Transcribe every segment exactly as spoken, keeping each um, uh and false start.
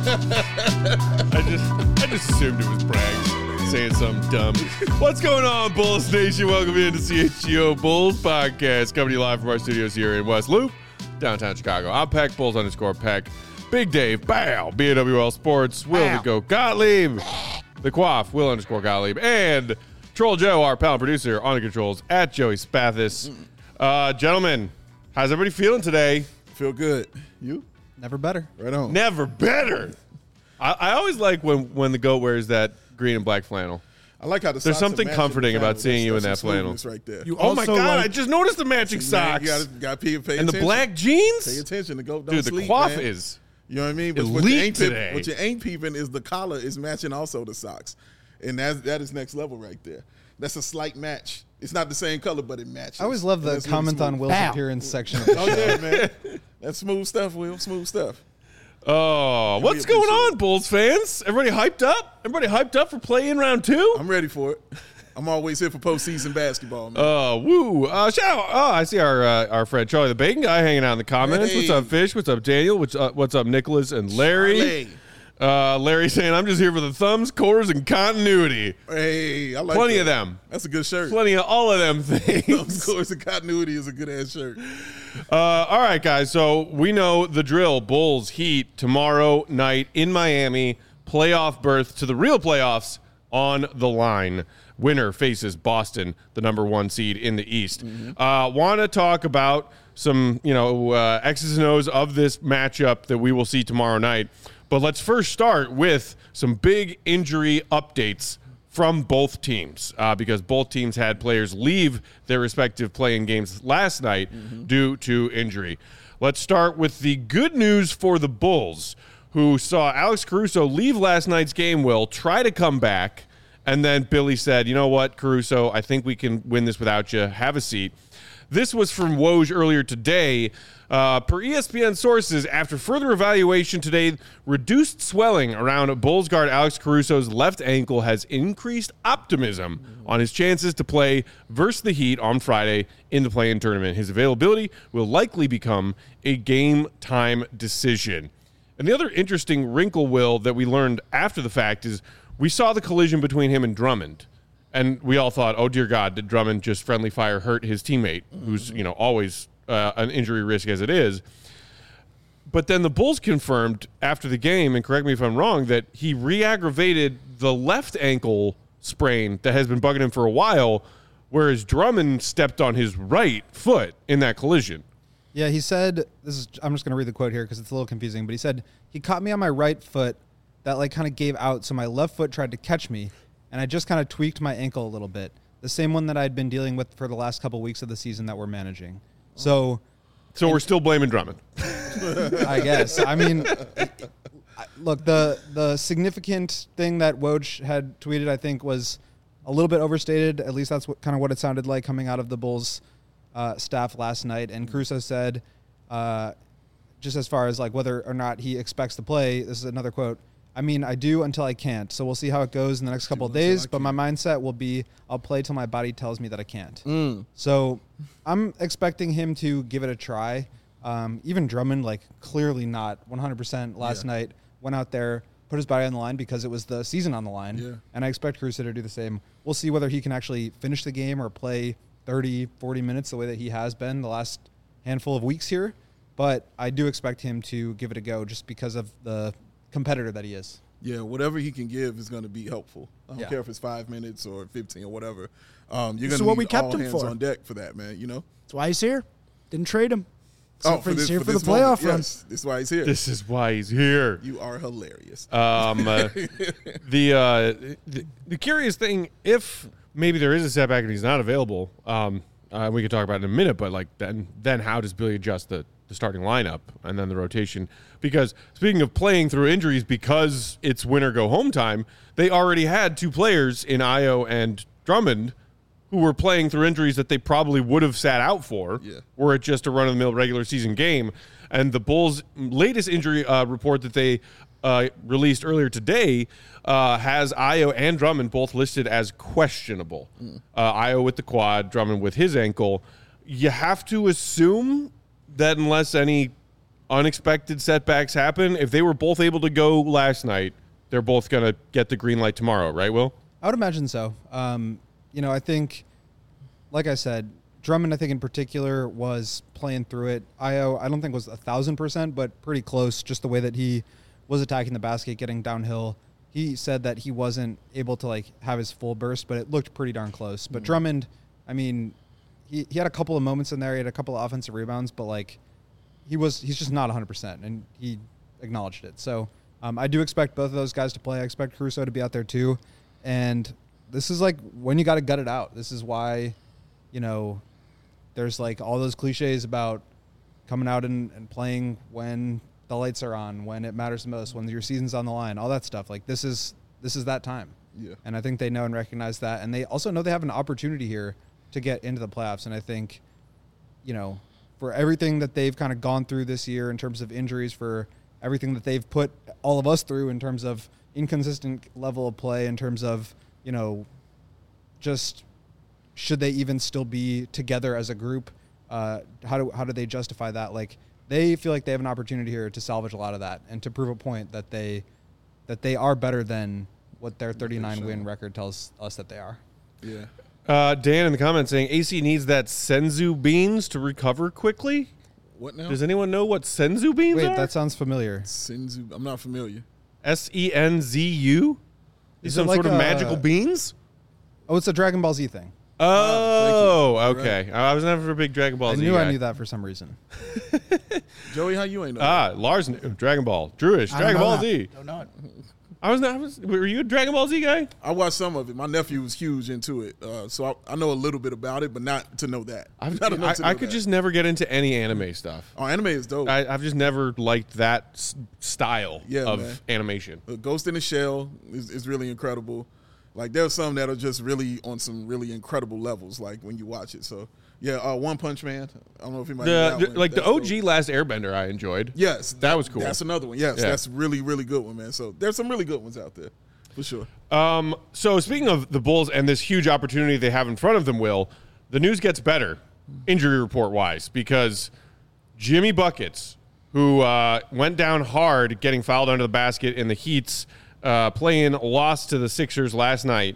I just I just assumed it was Bragg saying something dumb. What's going on, Bulls Nation? Welcome in to C H G O Bulls Podcast, coming to you live from our studios here in West Loop, downtown Chicago. I'm Peck, Bulls underscore Peck. Big Dave, bow, B A W L Sports, Will the Go Gottlieb, the Quaff, Will underscore Gottlieb, and Troll Joe, our pal and producer, on the controls, at Joey Spathis. Uh, gentlemen, how's everybody feeling today? Feel good. You? Never better. Right on. Never better. I, I always like when, when the goat wears that green and black flannel. I like how the There's socks something are matching comforting the about flannel. seeing you in that That's some flannel. smoothness right there. You Oh my also God, like- I just noticed the matching socks. You gotta, gotta pay, pay and attention. the black jeans? Pay attention. The goat don't Dude, the sleep, Quaff man. is You know what I mean? But what elite you ain't peep- today. What you ain't peeping is the collar is matching also the socks. And that's, that is next level right there. That's a slight match. It's not the same color, but it matches. I always love And the that's really comment on smooth. Will's Bow. appearance section of the Oh, show. yeah, man. That's smooth stuff, Will. Smooth stuff. Oh, We what's going appreciate on, it. Bulls fans? Everybody hyped up? Everybody hyped up for play-in round two? I'm ready for it. I'm always here for postseason basketball, man. Uh, woo. Uh, shout out. Oh, I see our uh, our friend Charlie the Bacon Guy hanging out in the comments. Hey. What's up, Fish? What's up, Daniel? What's up, what's up, Nicholas and Larry? Charlie. Uh, Larry saying, I'm just here for the thumbs, cores, and continuity. Hey, I like Plenty that. of them. That's a good shirt. Plenty of all of them Of things. course, the continuity is a good ass shirt. Uh, all right, guys. So we know the drill. Bulls Heat tomorrow night in Miami. Playoff berth to the real playoffs on the line. Winner faces Boston, the number one seed in the East. Mm-hmm. Uh, Want to talk about some, you know, uh, X's and O's of this matchup that we will see tomorrow night. But let's first start with some big injury updates from both teams uh, because both teams had players leave their respective play-in games last night mm-hmm. due to injury. Let's start with the good news for the Bulls, who saw Alex Caruso leave last night's game, Will, try to come back, and then Billy said, you know what, Caruso, I think we can win this without you. Have a seat. This was from Woj earlier today. Uh, per E S P N sources, after further evaluation today, reduced swelling around Bulls guard Alex Caruso's left ankle has increased optimism on his chances to play versus the Heat on Friday in the play-in tournament. His availability will likely become a game-time decision. And the other interesting wrinkle, Will, that we learned after the fact is we saw the collision between him and Drummond. And we all thought, oh, dear God, did Drummond just friendly fire hurt his teammate, who's, you know, always uh, an injury risk as it is. But then the Bulls confirmed after the game, and correct me if I'm wrong, that he re-aggravated the left ankle sprain that has been bugging him for a while, whereas Drummond stepped on his right foot in that collision. Yeah, he said, this is. I'm just going to read the quote here because it's a little confusing, but he said, he caught me on my right foot that like kind of gave out, so my left foot tried to catch me, and I just kind of tweaked my ankle a little bit. The same one that I'd been dealing with for the last couple weeks of the season that we're managing. So, So we're still blaming Drummond. I guess. I mean, I- look, the the significant thing that Woj had tweeted, I think, was a little bit overstated. At least that's what kind of what it sounded like coming out of the Bulls uh, staff last night. And Caruso said, uh, just as far as like whether or not he expects to play, this is another quote. I mean, I do until I can't. So we'll see how it goes in the next couple of days. But my mindset will be I'll play till my body tells me that I can't. Mm. So I'm expecting him to give it a try. Um, even Drummond, like clearly not one hundred percent last Yeah. night, went out there, put his body on the line because it was the season on the line. Yeah. And I expect Caruso to do the same. We'll see whether he can actually finish the game or play thirty, forty minutes the way that he has been the last handful of weeks here. But I do expect him to give it a go just because of the competitor that he is. Yeah, whatever he can give is going to be helpful. I don't Yeah. care if it's five minutes or fifteen or whatever. Um, you're going This is to what need we kept all him hands for. on deck for that, man. You know. That's why he's here. Didn't trade him. So oh, for he's this, here for for, this the playoff moment. run. Yes, this is why he's here. This is why he's here. You are hilarious. Um, uh, the, uh, the the curious thing, if maybe there is a setback and he's not available, um, uh, we could talk about it in a minute. But like then, then how does Billy adjust the, the starting lineup and then the rotation? Because speaking of playing through injuries, because it's win or go home time, they already had two players in Ayo and Drummond who were playing through injuries that they probably would have sat out for Yeah. were it just a run-of-the-mill regular season game. And the Bulls' latest injury uh, report that they uh, released earlier today uh, has Ayo and Drummond both listed as questionable. Mm. Uh, Ayo with the quad, Drummond with his ankle. You have to assume that unless any unexpected setbacks happen, if they were both able to go last night, they're both going to get the green light tomorrow, right, Will? I would imagine so. Um, you know, I think, like I said, Drummond, I think in particular, was playing through it. Io, I don't think was a thousand percent, but pretty close. Just the way that he was attacking the basket, getting downhill. He said that he wasn't able to like have his full burst, but it looked pretty darn close. But mm-hmm. Drummond, I mean, he he had a couple of moments in there. He had a couple of offensive rebounds, but like he was, he's just not one hundred percent, and he acknowledged it. So um, I do expect both of those guys to play. I expect Caruso to be out there too, and this is like when you got to gut it out. This is why, you know. There's like all those cliches about coming out and, and playing when the lights are on, when it matters the most, when your season's on the line, all that stuff. Like this is this is that time. Yeah. And I think they know and recognize that. And they also know they have an opportunity here to get into the playoffs. And I think, you know, for everything that they've kind of gone through this year in terms of injuries, for everything that they've put all of us through in terms of inconsistent level of play, in terms of, you know, just – should they even still be together as a group? Uh, how do how do they justify that? Like they feel like they have an opportunity here to salvage a lot of that and to prove a point that they that they are better than what their thirty-nine win record tells us that they are. Yeah. Uh, Dan in the comments saying A C needs that senzu beans to recover quickly. What now? Does anyone know what senzu beans Wait, are? that sounds familiar. Senzu. I'm not familiar. S E N Z U? Is Some it like sort of a- magical beans? Oh, it's a Dragon Ball Z thing. Oh, thank you. okay. I was never a big Dragon Ball I Z knew guy. I knew that for some reason. Joey, how you ain't know? Ah, Lars knew. Dragon Ball. Drewish. I don't Dragon know Ball that. Z. Don't know it. I was not. I was, were you a Dragon Ball Z guy? I watched some of it. My nephew was huge into it, uh, so I, I know a little bit about it, but not to know that. I've, Not enough I, to know I could that. just never get into any anime stuff. Oh, anime is dope. I, I've just never liked that s- style Yeah, of man. animation. Uh, Ghost in the Shell is, is really incredible. Like there's some that are just really on some really incredible levels. Like when you watch it. So yeah, uh, One Punch Man. I don't know if you might know The, that the- one. like the That's O G dope. Last Airbender, I enjoyed. Yes, That was cool. That's another one. Yes, Yeah. that's really really good one, man. So there's some really good ones out there, for sure. Um, so speaking of the Bulls and this huge opportunity they have in front of them, Will, the news gets better, injury report wise, because Jimmy Buckets, who uh, went down hard getting fouled under the basket in the Heat's uh, play-in loss to the Sixers last night,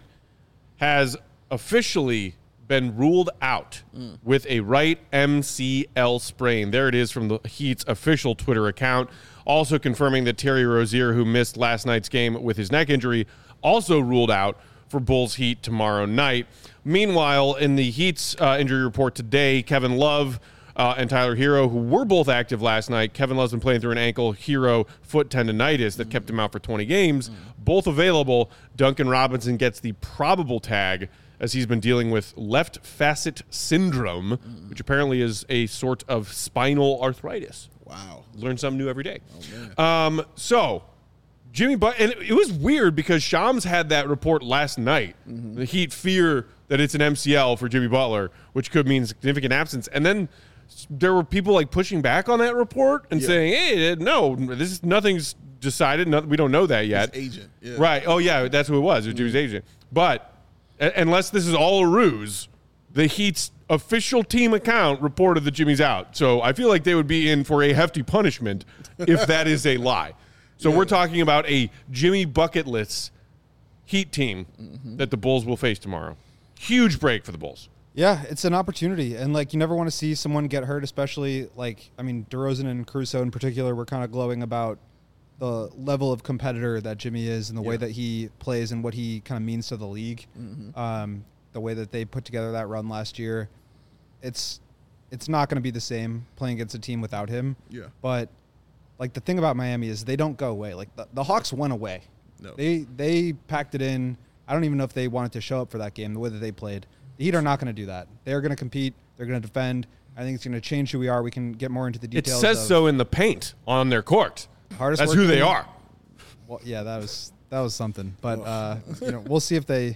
has officially been ruled out mm. with a right M C L sprain. There it is from the Heat's official Twitter account. Also confirming that Terry Rozier, who missed last night's game with his neck injury, also ruled out for Bulls Heat tomorrow night. Meanwhile, in the Heat's uh, injury report today, Kevin Love uh, and Tyler Hero, who were both active last night. Kevin Love's been playing through an ankle, Hero foot tendonitis that mm. kept him out for twenty games. Mm. Both available. Duncan Robinson gets the probable tag as he's been dealing with left facet syndrome, mm. which apparently is a sort of spinal arthritis. Wow. Learn something new every day. Oh, um, so, Jimmy But and it was weird because Shams had that report last night. Mm-hmm. The Heat fear that it's an M C L for Jimmy Butler, which could mean significant absence. And then there were people like pushing back on that report and yeah. saying, "Hey, no, this is nothing's decided. No, we don't know that yet." His agent, yeah. Right? Oh yeah, that's who it was. It was Jimmy's Mm-hmm. agent. But a- unless this is all a ruse, the Heat's official team account reported that Jimmy's out. So I feel like they would be in for a hefty punishment if that is a lie. So yeah. we're talking about a Jimmy bucketless Heat team mm-hmm. that the Bulls will face tomorrow. Huge break for the Bulls. Yeah, it's an opportunity. And, like, you never want to see someone get hurt, especially, like, I mean, DeRozan and Caruso in particular were kind of glowing about the level of competitor that Jimmy is and the yeah. way that he plays and what he kind of means to the league. Mm-hmm. Um, the way that they put together that run last year. It's it's not going to be the same playing against a team without him. Yeah. But, like, the thing about Miami is they don't go away. Like, the, the Hawks went away. No. They they packed it in. I don't even know if they wanted to show up for that game, the way that they played. The Heat are not going to do that. They're going to compete. They're going to defend. I think it's going to change who we are. We can get more into the It details. says of so in the paint on their court. hardest That's work who they team. are. Well, yeah, that was that was something. But uh, you know, we'll see if they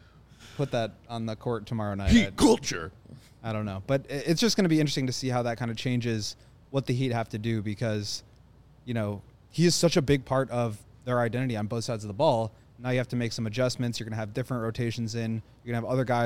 put that on the court tomorrow night. Heat I, culture. I don't know, but it- it's just going to be interesting to see how that kind of changes what the Heat have to do because, you know, he is such a big part of their identity on both sides of the ball. Now you have to make some adjustments. You're going to have different rotations in. You're going to have other guys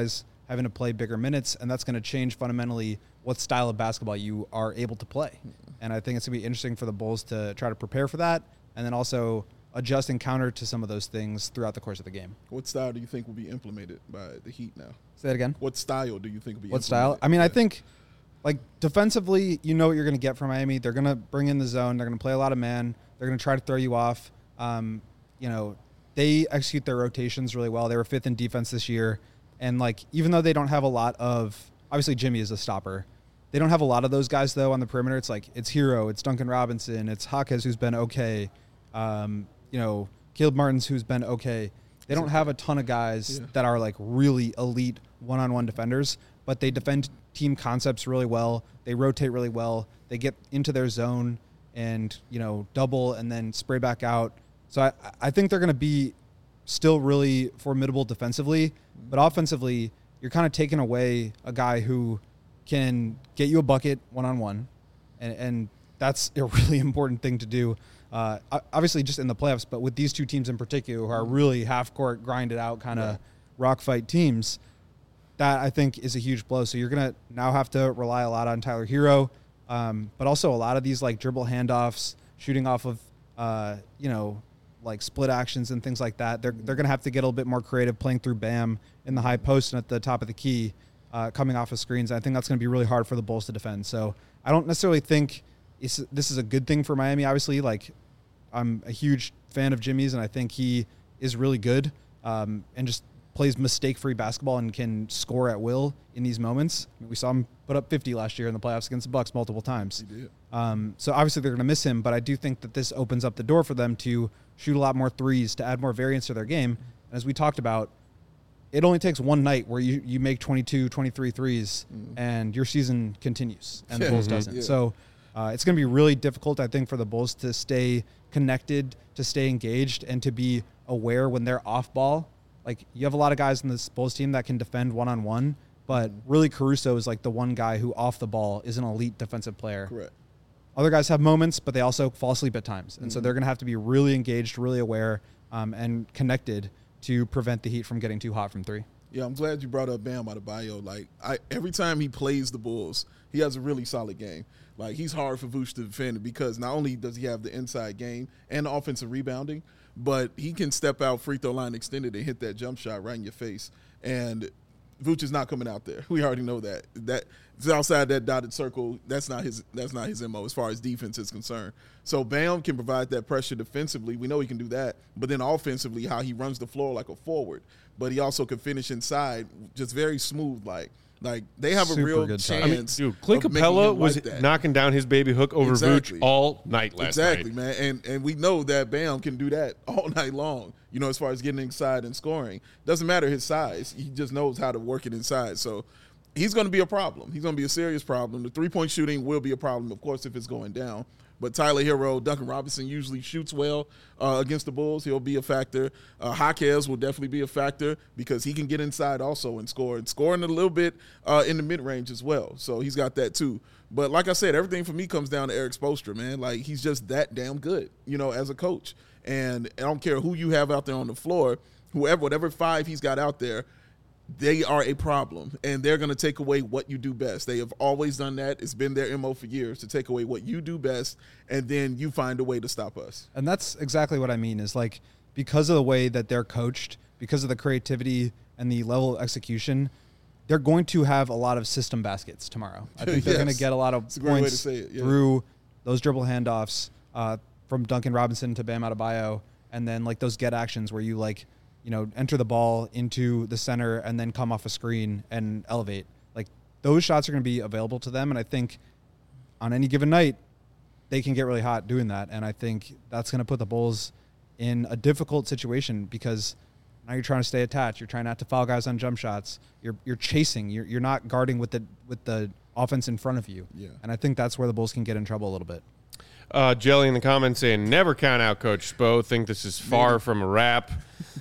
having to play bigger minutes, and that's going to change fundamentally what style of basketball you are able to play. And I think it's going to be interesting for the Bulls to try to prepare for that, and then also adjust and counter to some of those things throughout the course of the game. What style do you think will be implemented by the Heat now? Say that again. What style do you think will be What implemented? style? I mean, yeah. I think, like, defensively, you know what you're going to get from Miami. They're going to bring in the zone. They're going to play a lot of man. They're going to try to throw you off. Um, you know, they execute their rotations really well. They were fifth in defense this year. And, like, even though they don't have a lot of – obviously Jimmy is a stopper. They don't have a lot of those guys, though, on the perimeter. It's like it's Hero, it's Duncan Robinson, it's Jaquez, who's been okay. Um, you know, Caleb Martins, who's been okay. They don't have a ton of guys yeah. that are, like, really elite one-on-one defenders, but they defend team concepts really well. They rotate really well. They get into their zone and, you know, double and then spray back out. So I, I think they're going to be still really formidable defensively, but offensively, you're kind of taking away a guy who can get you a bucket one-on-one, and, and that's a really important thing to do. Uh, obviously, just in the playoffs, but with these two teams in particular, who are really half-court, grinded out kind of yeah. rock fight teams, that I think is a huge blow. So you're going to now have to rely a lot on Tyler Hero, um, but also a lot of these like dribble handoffs, shooting off of, uh, you know, like split actions and things like that. They're they're going to have to get a little bit more creative, playing through Bam in the high post and at the top of the key, uh, coming off of screens. I think that's going to be really hard for the Bulls to defend. So I don't necessarily think it's, this is a good thing for Miami. Obviously, like, I'm a huge fan of Jimmy's, and I think he is really good um, and just plays mistake-free basketball and can score at will in these moments. I mean, we saw him put up fifty last year in the playoffs against the Bucks multiple times. He did. Um, so obviously they're going to miss him, but I do think that this opens up the door for them to shoot a lot more threes, to add more variance to their game. And as we talked about, it only takes one night where you, you make twenty-two, twenty-three threes, mm. and your season continues, and the Bulls mm-hmm. doesn't. Yeah. So uh, it's going to be really difficult, I think, for the Bulls to stay connected, to stay engaged, and to be aware when they're off ball. Like, you have a lot of guys in this Bulls team that can defend one-on-one, but really Caruso is like the one guy who off the ball is an elite defensive player. Correct. Other guys have moments, but they also fall asleep at times. And mm-hmm. so they're going to have to be really engaged, really aware, um, and connected to prevent the Heat from getting too hot from three. Yeah, I'm glad you brought up Bam Adebayo. Like, I, every time he plays the Bulls, he has a really solid game. Like, he's hard for Vooch to defend because not only does he have the inside game and the offensive rebounding, but he can step out free throw line extended and hit that jump shot right in your face. And Vooch is not coming out there. We already know that. That it's outside that dotted circle. That's not his. That's not his M O as far as defense is concerned. So Bam can provide that pressure defensively. We know he can do that. But then offensively, how he runs the floor like a forward. But he also can finish inside, just very smooth. Like like they have Super a real good chance. shot. I mean, dude, Clint of making Capella him was like that. knocking down his baby hook over Exactly. Vooch all night last Exactly, night. man. And and we know that Bam can do that all night long, you know, as far as getting inside and scoring. Doesn't matter his size. He just knows how to work it inside. So he's going to be a problem. He's going to be a serious problem. The three-point shooting will be a problem, of course, if it's going down. But Tyler Hero, Duncan Robinson usually shoots well uh, against the Bulls. He'll be a factor. Uh, Jaquez will definitely be a factor because he can get inside also and score. And scoring a little bit uh, in the mid-range as well. So he's got that too. But like I said, everything for me comes down to Eric Spoelstra, man. Like, he's just that damn good, you know, as a coach. And I don't care who you have out there on the floor, whoever, whatever five he's got out there, they are a problem, and they're going to take away what you do best. They have always done that. It's been their M O for years, to take away what you do best, and then you find a way to stop us. And that's exactly what I mean is, like, because of the way that they're coached, because of the creativity and the level of execution, they're going to have a lot of system baskets tomorrow. I think they're Yes. going to get a lot of It's a great way to points say it, yeah. through those dribble handoffs uh, from Duncan Robinson to Bam Adebayo, and then, like, those get actions where you, like, you know, enter the ball into the center and then come off a screen and elevate. Like, those shots are going to be available to them, and I think on any given night, they can get really hot doing that. And I think that's going to put the Bulls in a difficult situation because now you're trying to stay attached. You're trying not to foul guys on jump shots. You're you're chasing. You're you're not guarding with the with the offense in front of you. Yeah. And I think that's where the Bulls can get in trouble a little bit. Uh, Jelly in the comments saying, never count out Coach Spo. Think this is far Maybe. from a wrap.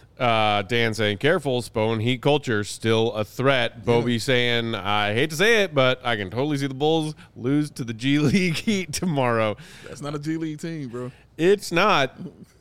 Uh, Dan saying, careful, Spo and Heat culture still a threat. Bobby saying, I hate to say it, but I can totally see the Bulls lose to the G League Heat tomorrow. That's not a G League team, bro. It's not.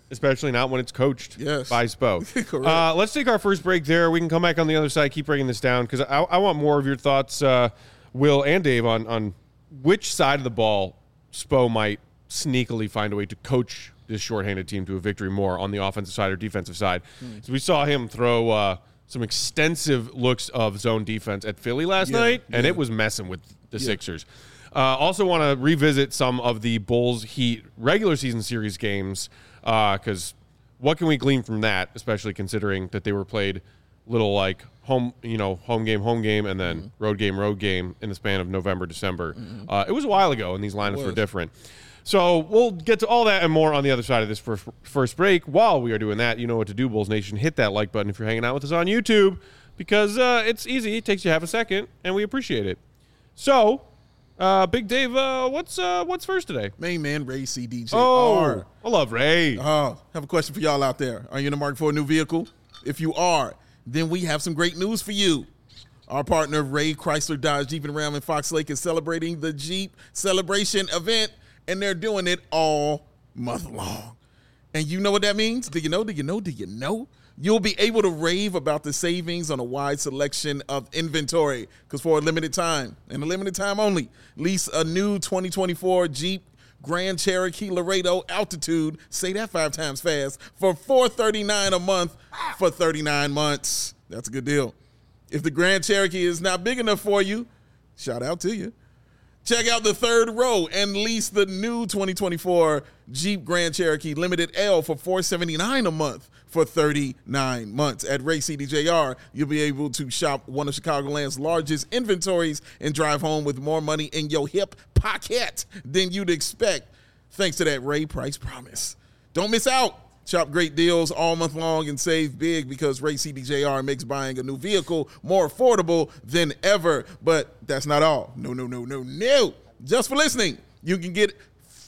especially not when it's coached Yes. by Spo. Correct. Uh, let's take our first break there. We can come back on the other side, keep breaking this down, because I, I want more of your thoughts, uh, Will and Dave, on, on which side of the ball Spo might sneakily find a way to coach this shorthanded team to a victory more on the offensive side or defensive side. Mm. So we saw him throw uh, some extensive looks of zone defense at Philly last yeah, night, and yeah. it was messing with the Yeah. Sixers. Uh, also want to revisit some of the Bulls Heat regular season series games, because uh, what can we glean from that, especially considering that they were played little like home, you know, home game, home game, and then mm-hmm. road game, road game in the span of November, December. Mm-hmm. Uh, it was a while ago, and these lineups were different. So we'll get to all that and more on the other side of this first, first break. While we are doing that, you know what to do, Bulls Nation. Hit that like button if you're hanging out with us on YouTube, because uh, it's easy. It takes you half a second, and we appreciate it. So, uh, Big Dave, uh, what's uh, what's first today? Main man, Ray C D J R. Oh, I love Ray. Oh, have a question for y'all out there. Are you in the market for a new vehicle? If you are, then we have some great news for you. Our partner, Ray Chrysler Dodge Jeep and Ram in Fox Lake, is celebrating the Jeep Celebration event, and they're doing it all month long. And you know what that means? Do you know? Do you know? Do you know? You'll be able to rave about the savings on a wide selection of inventory, because for a limited time, and a limited time only, lease a new twenty twenty-four Jeep Grand Cherokee Laredo Altitude, say that five times fast, for four hundred thirty-nine dollars a month for thirty-nine months. That's a good deal. If the Grand Cherokee is not big enough for you, shout out to you. Check out the third row and lease the new twenty twenty-four Jeep Grand Cherokee Limited L for four hundred seventy-nine dollars a month for thirty-nine months. At Ray C D J R, you'll be able to shop one of Chicagoland's largest inventories and drive home with more money in your hip pocket than you'd expect, thanks to that Ray Price promise. Don't miss out. Shop great deals all month long and save big, because Ray C D J R makes buying a new vehicle more affordable than ever. But that's not all. No, no, no, no, no. Just for listening, you can get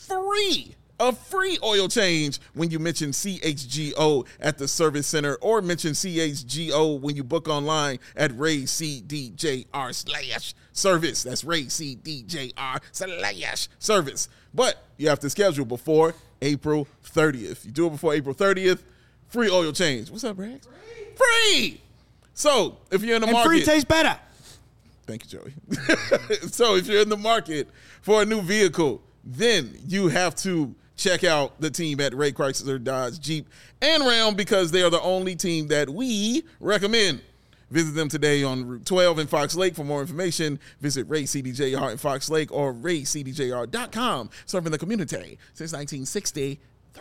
free, a free oil change when you mention C H G O at the service center, or mention C H G O when you book online at Ray C D J R slash service. That's Ray C D J R slash service. But you have to schedule before April thirtieth. You do it before April thirtieth, free oil change. What's up, Rags? Free. Free. So if you're in the and market. free tastes better. Thank you, Joey. So if you're in the market for a new vehicle, then you have to check out the team at Ray Chrysler Dodge Jeep and Ram, because they are the only team that we recommend. Visit them today on Route twelve in Fox Lake. For more information, visit Ray C D J R in Fox Lake or ray c d j r dot com, serving the community since nineteen sixty-three.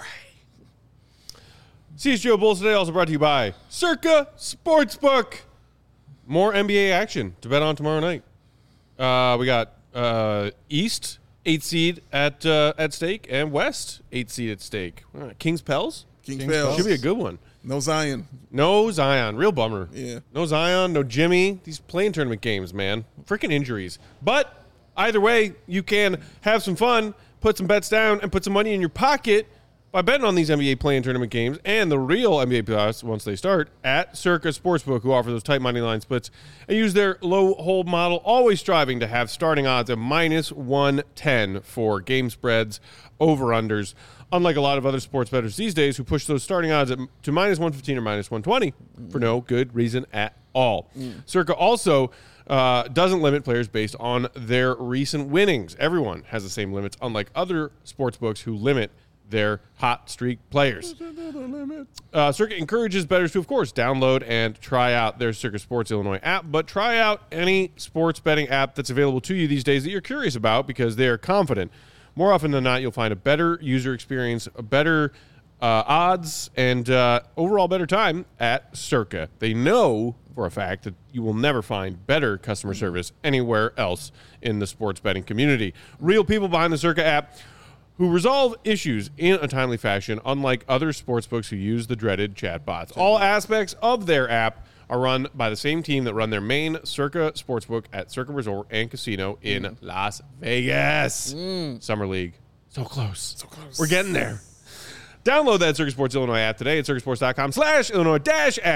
C H G O Bulls Today also brought to you by Circa Sportsbook. More N B A action to bet on tomorrow night. Uh, we got uh, East, eight seed at uh, at stake, and West, eight seed at stake. Uh, Kings Pels? Kings Pels. Should be a good one. No Zion. No Zion. Real bummer. Yeah. No Zion, no Jimmy. These playing tournament games, man. Freaking injuries. But either way, you can have some fun, put some bets down, and put some money in your pocket by betting on these N B A playing tournament games and the real N B A playoffs once they start at Circa Sportsbook, who offer those tight money line splits and use their low hold model, always striving to have starting odds of minus one ten for game spreads, over-unders. Unlike a lot of other sports bettors these days who push those starting odds at, to minus one fifteen or minus one twenty mm. for no good reason at all. Mm. Circa also uh, doesn't limit players based on their recent winnings. Everyone has the same limits, unlike other sports books who limit their hot streak players. Uh, Circa encourages bettors to, of course, download and try out their Circa Sports Illinois app, but try out any sports betting app that's available to you these days that you're curious about, because they are confident. More often than not, you'll find a better user experience, a better uh, odds, and uh, overall better time at Circa. They know for a fact that you will never find better customer service anywhere else in the sports betting community. Real people behind the Circa app who resolve issues in a timely fashion, unlike other sportsbooks who use the dreaded chatbots. All aspects of their app are run by the same team that run their main Circa Sportsbook at Circa Resort and Casino in mm. Las Vegas. Mm. Summer League. So close. So close. We're getting there. Download that Circa Sports Illinois app today at circasports.com slash Illinois dash app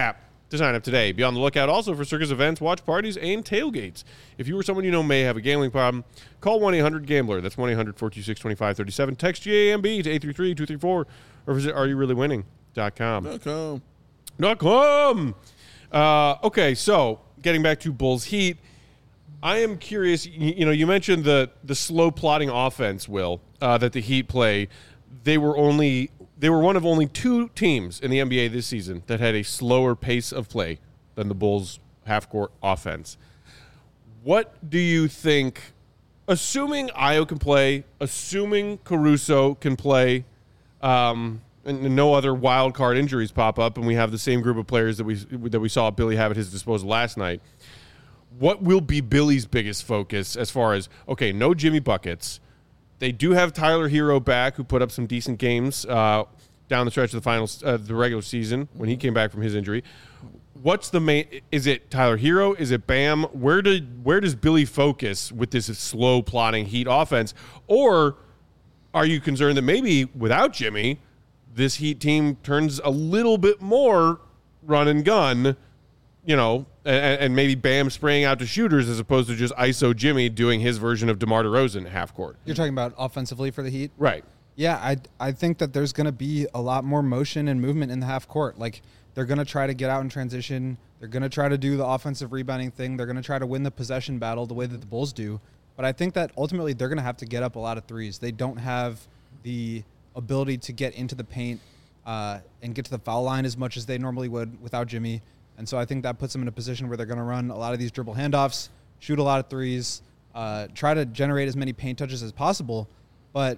to sign up today. Be on the lookout also for circus events, watch parties, and tailgates. If you or someone you know may have a gambling problem, call one eight hundred gambler. That's one eight hundred four two six two five three seven. Text G A M B to eight three three two three four or visit are you really winning dot com. Dot com. Dot com. Uh, okay, so getting back to Bulls Heat, I am curious. You, you know, you mentioned the the slow plotting offense, Will, uh, that the Heat play. They were only they were one of only two teams in the N B A this season that had a slower pace of play than the Bulls half court offense. What do you think? Assuming Ayo can play, assuming Caruso can play, um, and no other wild card injuries pop up, and we have the same group of players that we that we saw Billy have at his disposal last night. What will be Billy's biggest focus as far as, okay, no Jimmy buckets. They do have Tyler Hero back, who put up some decent games uh, down the stretch of the finals, uh, the regular season when he came back from his injury. What's the main? Is it Tyler Hero? Is it Bam? Where did where does Billy focus with this slow plotting Heat offense? Or are you concerned that maybe without Jimmy, this Heat team turns a little bit more run and gun, you know, and, and maybe Bam spraying out to shooters as opposed to just I S O Jimmy doing his version of DeMar DeRozan half court? You're talking about offensively for the Heat? Right. Yeah, I, I think that there's going to be a lot more motion and movement in the half court. Like, they're going to try to get out in transition. They're going to try to do the offensive rebounding thing. They're going to try to win the possession battle the way that the Bulls do. But I think that ultimately they're going to have to get up a lot of threes. They don't have the ability to get into the paint uh, and get to the foul line as much as they normally would without Jimmy. And so I think that puts them in a position where they're going to run a lot of these dribble handoffs, shoot a lot of threes, uh, try to generate as many paint touches as possible. But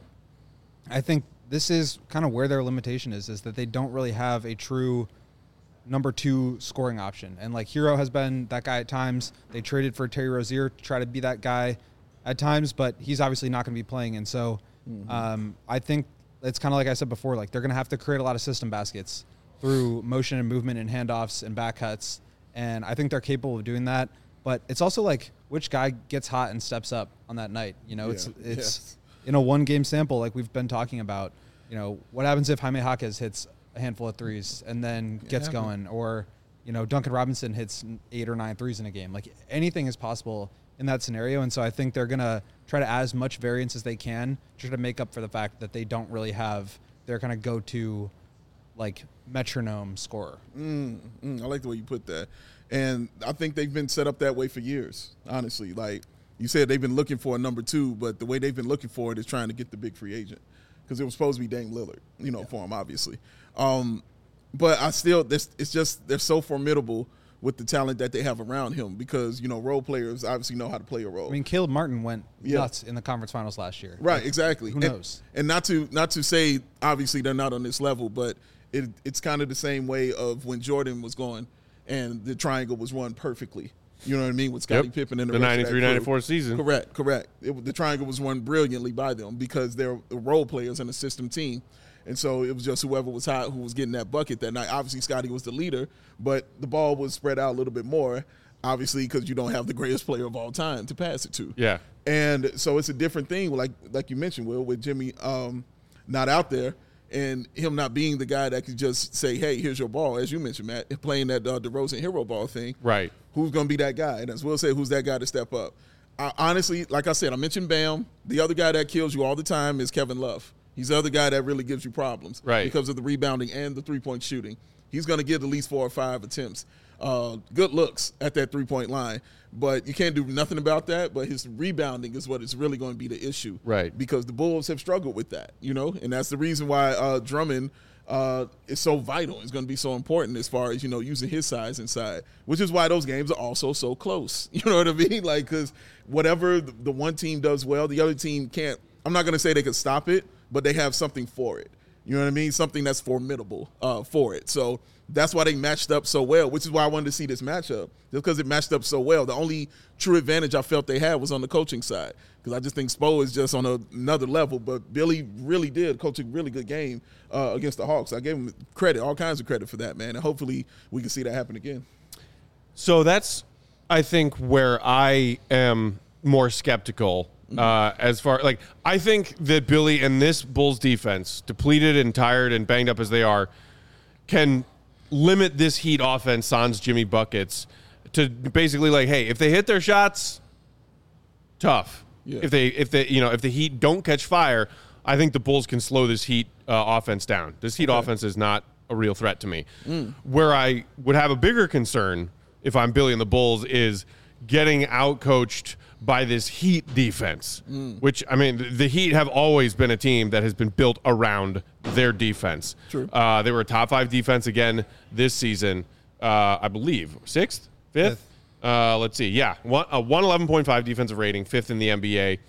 I think this is kind of where their limitation is, is that they don't really have a true number two scoring option. And like Hero has been that guy at times. They traded for Terry Rozier to try to be that guy at times, but he's obviously not going to be playing. And so mm-hmm. um, I think it's kind of like I said before, like they're going to have to create a lot of system baskets through motion and movement and handoffs and back cuts. And I think they're capable of doing that. But it's also like which guy gets hot and steps up on that night. You know, yeah. it's it's yes. in a one game sample like we've been talking about. You know, what happens if Jaime Jaquez hits a handful of threes and then gets yeah. going, or, you know, Duncan Robinson hits eight or nine threes in a game. Like anything is possible in that scenario. And so I think they're going to try to add as much variance as they can to try to make up for the fact that they don't really have their kind of go-to like metronome scorer. Mm, mm, I like the way you put that. And I think they've been set up that way for years, honestly. Like you said, they've been looking for a number two, but the way they've been looking for it is trying to get the big free agent, because it was supposed to be Dame Lillard, you know, yeah. for him, obviously. Um, but I still, this, it's just they're so formidable with the talent that they have around him, because, you know, role players obviously know how to play a role. I mean, Caleb Martin went yeah. nuts in the conference finals last year. Right, like, exactly. Who knows? And, and not to not to say, obviously, they're not on this level, but it, it's kind of the same way of when Jordan was going and the triangle was run perfectly. You know what I mean? With Scottie yep. Pippen and the, the ninety-three ninety-four season. Correct, correct. It, the triangle was run brilliantly by them because they're role players and a system team. And so it was just whoever was hot who was getting that bucket that night. Obviously, Scottie was the leader, but the ball was spread out a little bit more, obviously, because you don't have the greatest player of all time to pass it to. Yeah. And so it's a different thing, like like you mentioned, Will, with Jimmy um, not out there and him not being the guy that could just say, hey, here's your ball, as you mentioned, Matt, playing that uh, DeRozan hero ball thing. Right. Who's going to be that guy? And as Will said, who's that guy to step up? I, honestly, like I said, I mentioned Bam. The other guy that kills you all the time is Kevin Love. He's the other guy that really gives you problems, right, because of the rebounding and the three-point shooting. He's going to get at least four or five attempts. Uh, good looks at that three-point line, but you can't do nothing about that. But his rebounding is what is really going to be the issue, right? Because the Bulls have struggled with that, you know, and that's the reason why uh, Drummond uh, is so vital. It's going to be so important as far as, you know, using his size inside, which is why those games are also so close. You know what I mean? Like, because whatever the, the one team does well, the other team can't. I'm not going to say they can stop it, but they have something for it. You know what I mean? Something that's formidable uh, for it. So that's why they matched up so well, which is why I wanted to see this matchup, just because it matched up so well. The only true advantage I felt they had was on the coaching side, because I just think Spo is just on a, another level. But Billy really did coach a really good game uh, against the Hawks. I gave him credit, all kinds of credit for that, man. And hopefully we can see that happen again. So that's, I think, where I am more skeptical. Uh, as far like I think that Billy and this Bulls defense, depleted and tired and banged up as they are, can limit this Heat offense, sans Jimmy buckets, to basically like, hey, if they hit their shots, tough. Yeah. If they, if they, you know, if the Heat don't catch fire, I think the Bulls can slow this Heat uh, offense down. This Heat Okay. offense is not a real threat to me. Mm. Where I would have a bigger concern if I'm Billy and the Bulls is getting outcoached by this Heat defense, Mm. which, I mean, the Heat have always been a team that has been built around their defense. True. Uh, they were a top five defense again this season, uh, I believe. Sixth? Fifth? Fifth. Uh, let's see. Yeah, one, a one eleven point five defensive rating, fifth in the N B A.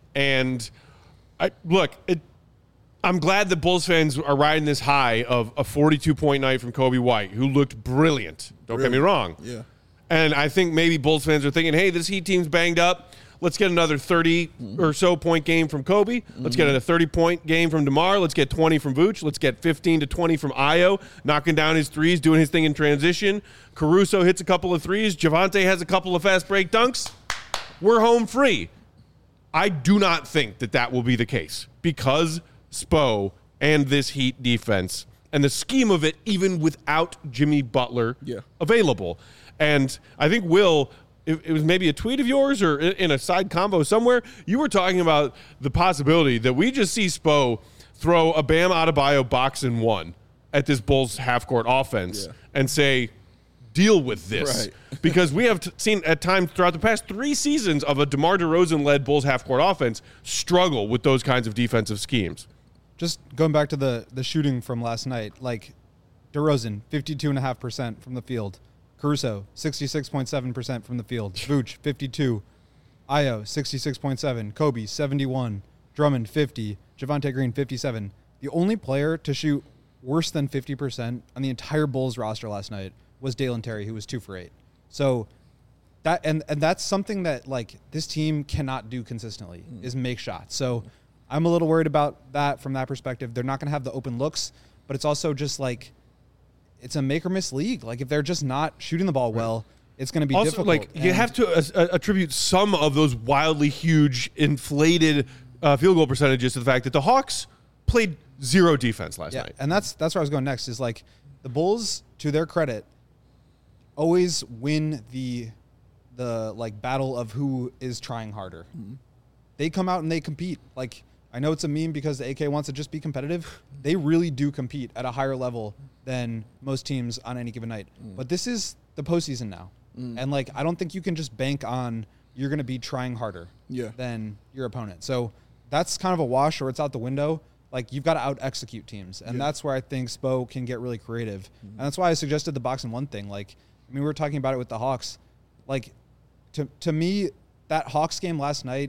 And I look, it, I'm glad that Bulls fans are riding this high of a forty-two point night from Kobe White, who looked brilliant. Don't get me wrong. Yeah. And I think maybe Bulls fans are thinking, hey, this Heat team's banged up. Let's get another thirty or so point game from Kobe. Let's get a thirty-point game from DeMar. Let's get twenty from Vooch. Let's get fifteen to twenty from Ayo, knocking down his threes, doing his thing in transition. Caruso hits a couple of threes. Javante has a couple of fast break dunks. We're home free. I do not think that that will be the case because Spo and this Heat defense and the scheme of it, even without Jimmy Butler Yeah. available. And I think, Will, it, it was maybe a tweet of yours or in, in a side combo somewhere, you were talking about the possibility that we just see Spo throw a Bam Adebayo box and one at this Bulls half-court offense Yeah. and say, deal with this. Right. Because we have t- seen at times throughout the past three seasons of a DeMar DeRozan-led Bulls half-court offense struggle with those kinds of defensive schemes. Just going back to the the shooting from last night, like DeRozan, fifty-two point five percent from the field. Caruso, sixty-six point seven percent from the field. Vooch, fifty-two. Ayo, sixty-six point seven. Kobe, seventy-one. Drummond, fifty. Javante Green, fifty-seven. The only player to shoot worse than fifty percent on the entire Bulls roster last night was Dalen Terry, who was two for eight. So that and, and that's something that like this team cannot do consistently is make shots. So I'm a little worried about that from that perspective. They're not going to have the open looks, but it's also just like it's a make or miss league. Like if they're just not shooting the ball well, it's going to be Also, difficult. like you And- have to uh, attribute some of those wildly huge, inflated uh, field goal percentages to the fact that the Hawks played zero defense last yeah, night. and that's that's where I was going next. Is like the Bulls, to their credit, always win the the like battle of who is trying harder. They come out and they compete. Like I know it's a meme because the A K wants to just be competitive. They really do compete at a higher level than most teams on any given night. But this is the postseason now, and like I don't think you can just bank on you're going to be trying harder Yeah. than your opponent. So that's kind of a wash, or it's out the window. Like you've got to out execute teams, and Yeah. that's where I think Spo can get really creative, and that's why I suggested the box and one thing. Like I mean, we were talking about it with the Hawks. Like to to me, that Hawks game last night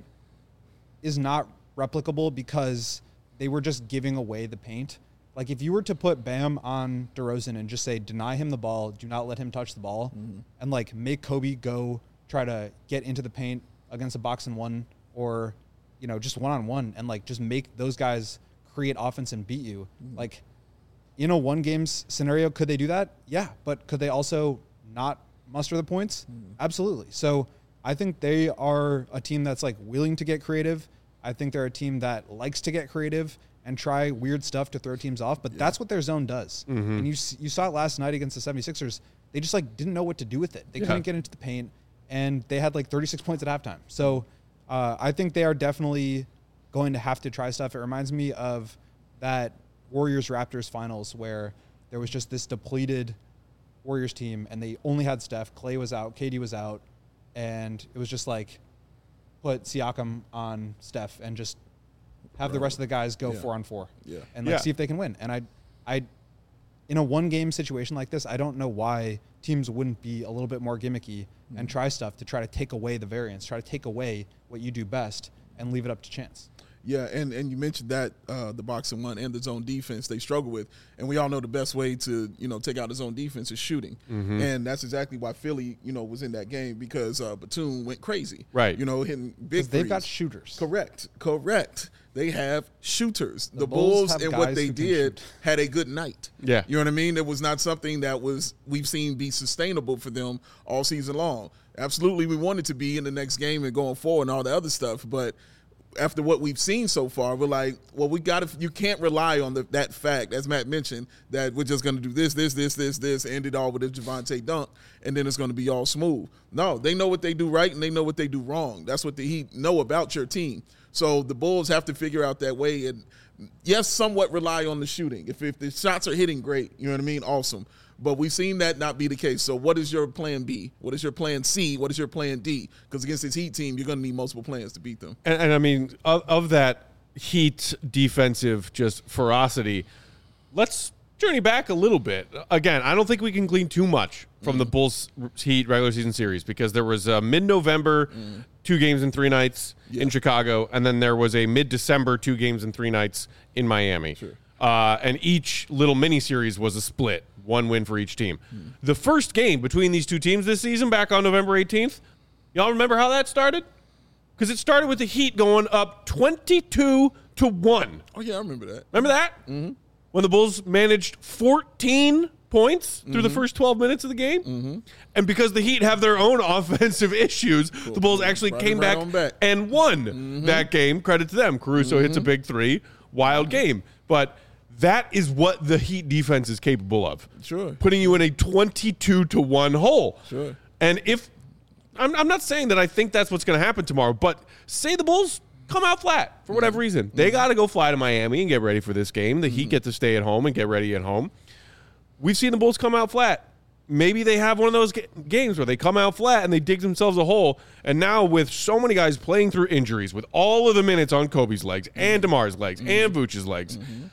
is not replicable because they were just giving away the paint. Like if you were to put Bam on DeRozan and just say deny him the ball, do not let him touch the ball, and like make Kobe go try to get into the paint against a box and one, or you know just one on one, and like just make those guys create offense and beat you. Like in a one games scenario, could they do that? Yeah, but could they also not muster the points? Absolutely. So I think they are a team that's like willing to get creative. I think they're a team that likes to get creative and try weird stuff to throw teams off, but that's what their zone does. And you s- you saw it last night against the seventy-sixers. They just like didn't know what to do with it. They Yeah. couldn't get into the paint, and they had like thirty-six points at halftime. So uh, I think they are definitely going to have to try stuff. It reminds me of that Warriors-Raptors finals where there was just this depleted Warriors team, and they only had Steph. Clay was out, K D was out, and it was just like put Siakam on Steph and just have the rest of the guys go Yeah. four on four, Yeah. and like Yeah. see if they can win. And I, I, in a one-game situation like this, I don't know why teams wouldn't be a little bit more gimmicky and try stuff to try to take away the variance, try to take away what you do best, and leave it up to chance. Yeah, and, and you mentioned that uh, the box and one and the zone defense they struggle with, and we all know the best way to you know take out the zone defense is shooting, Mm-hmm. and that's exactly why Philly you know was in that game because uh, Batum went crazy, Right. You know, hitting big. Because they've got threes. shooters. Correct, correct. They have shooters. The, The Bulls Bulls have and what guys they who can did shoot. had a good night. Yeah. You know what I mean? It was not something that was we've seen be sustainable for them all season long. Absolutely, we want it to be in the next game and going forward and all the other stuff, but after what we've seen so far, we're like, well, we got to. You can't rely on the, that fact, as Matt mentioned, that we're just going to do this, this, this, this, this, end it all with a Javonte dunk, and then it's going to be all smooth. No, they know what they do right and they know what they do wrong. That's what the Heat know about your team. So the Bulls have to figure out that way and, yes, somewhat rely on the shooting. If if the shots are hitting, great. You know what I mean? Awesome. But we've seen that not be the case. So what is your plan B? What is your plan C? What is your plan D? Because against this Heat team, you're going to need multiple plans to beat them. And, and I mean, of, of that Heat defensive just ferocity, let's journey back a little bit. Again, I don't think we can glean too much from mm. the Bulls Heat regular season series because there was a mid-November, mm. two games and three nights yeah. in Chicago, and then there was a mid-December, two games and three nights in Miami. Sure. Uh, and each little mini-series was a split. One win for each team. Hmm. The first game between these two teams this season, back on November eighteenth, y'all remember how that started? Because it started with the Heat going up twenty-two to one. Oh, yeah, I remember that. Remember that? Mm-hmm. When the Bulls managed fourteen points through mm-hmm. the first twelve minutes of the game. Mm-hmm. And because the Heat have their own offensive issues, cool. the Bulls actually right came right back, back and won mm-hmm. that game. Credit to them. Caruso mm-hmm. hits a big three. Wild mm-hmm. game. But that is what the Heat defense is capable of. Sure. Putting you in a twenty-two to one hole. Sure. And if I'm, I'm not saying that I think that's what's going to happen tomorrow, but say the Bulls come out flat for whatever reason. They got to go fly to Miami and get ready for this game. The Heat get to stay at home and get ready at home. We've seen the Bulls come out flat. Maybe they have one of those ga- games where they come out flat and they dig themselves a hole. And now with so many guys playing through injuries, with all of the minutes on Kobe's legs and DeMar's legs mm-hmm. and Vooch's legs, mm-hmm.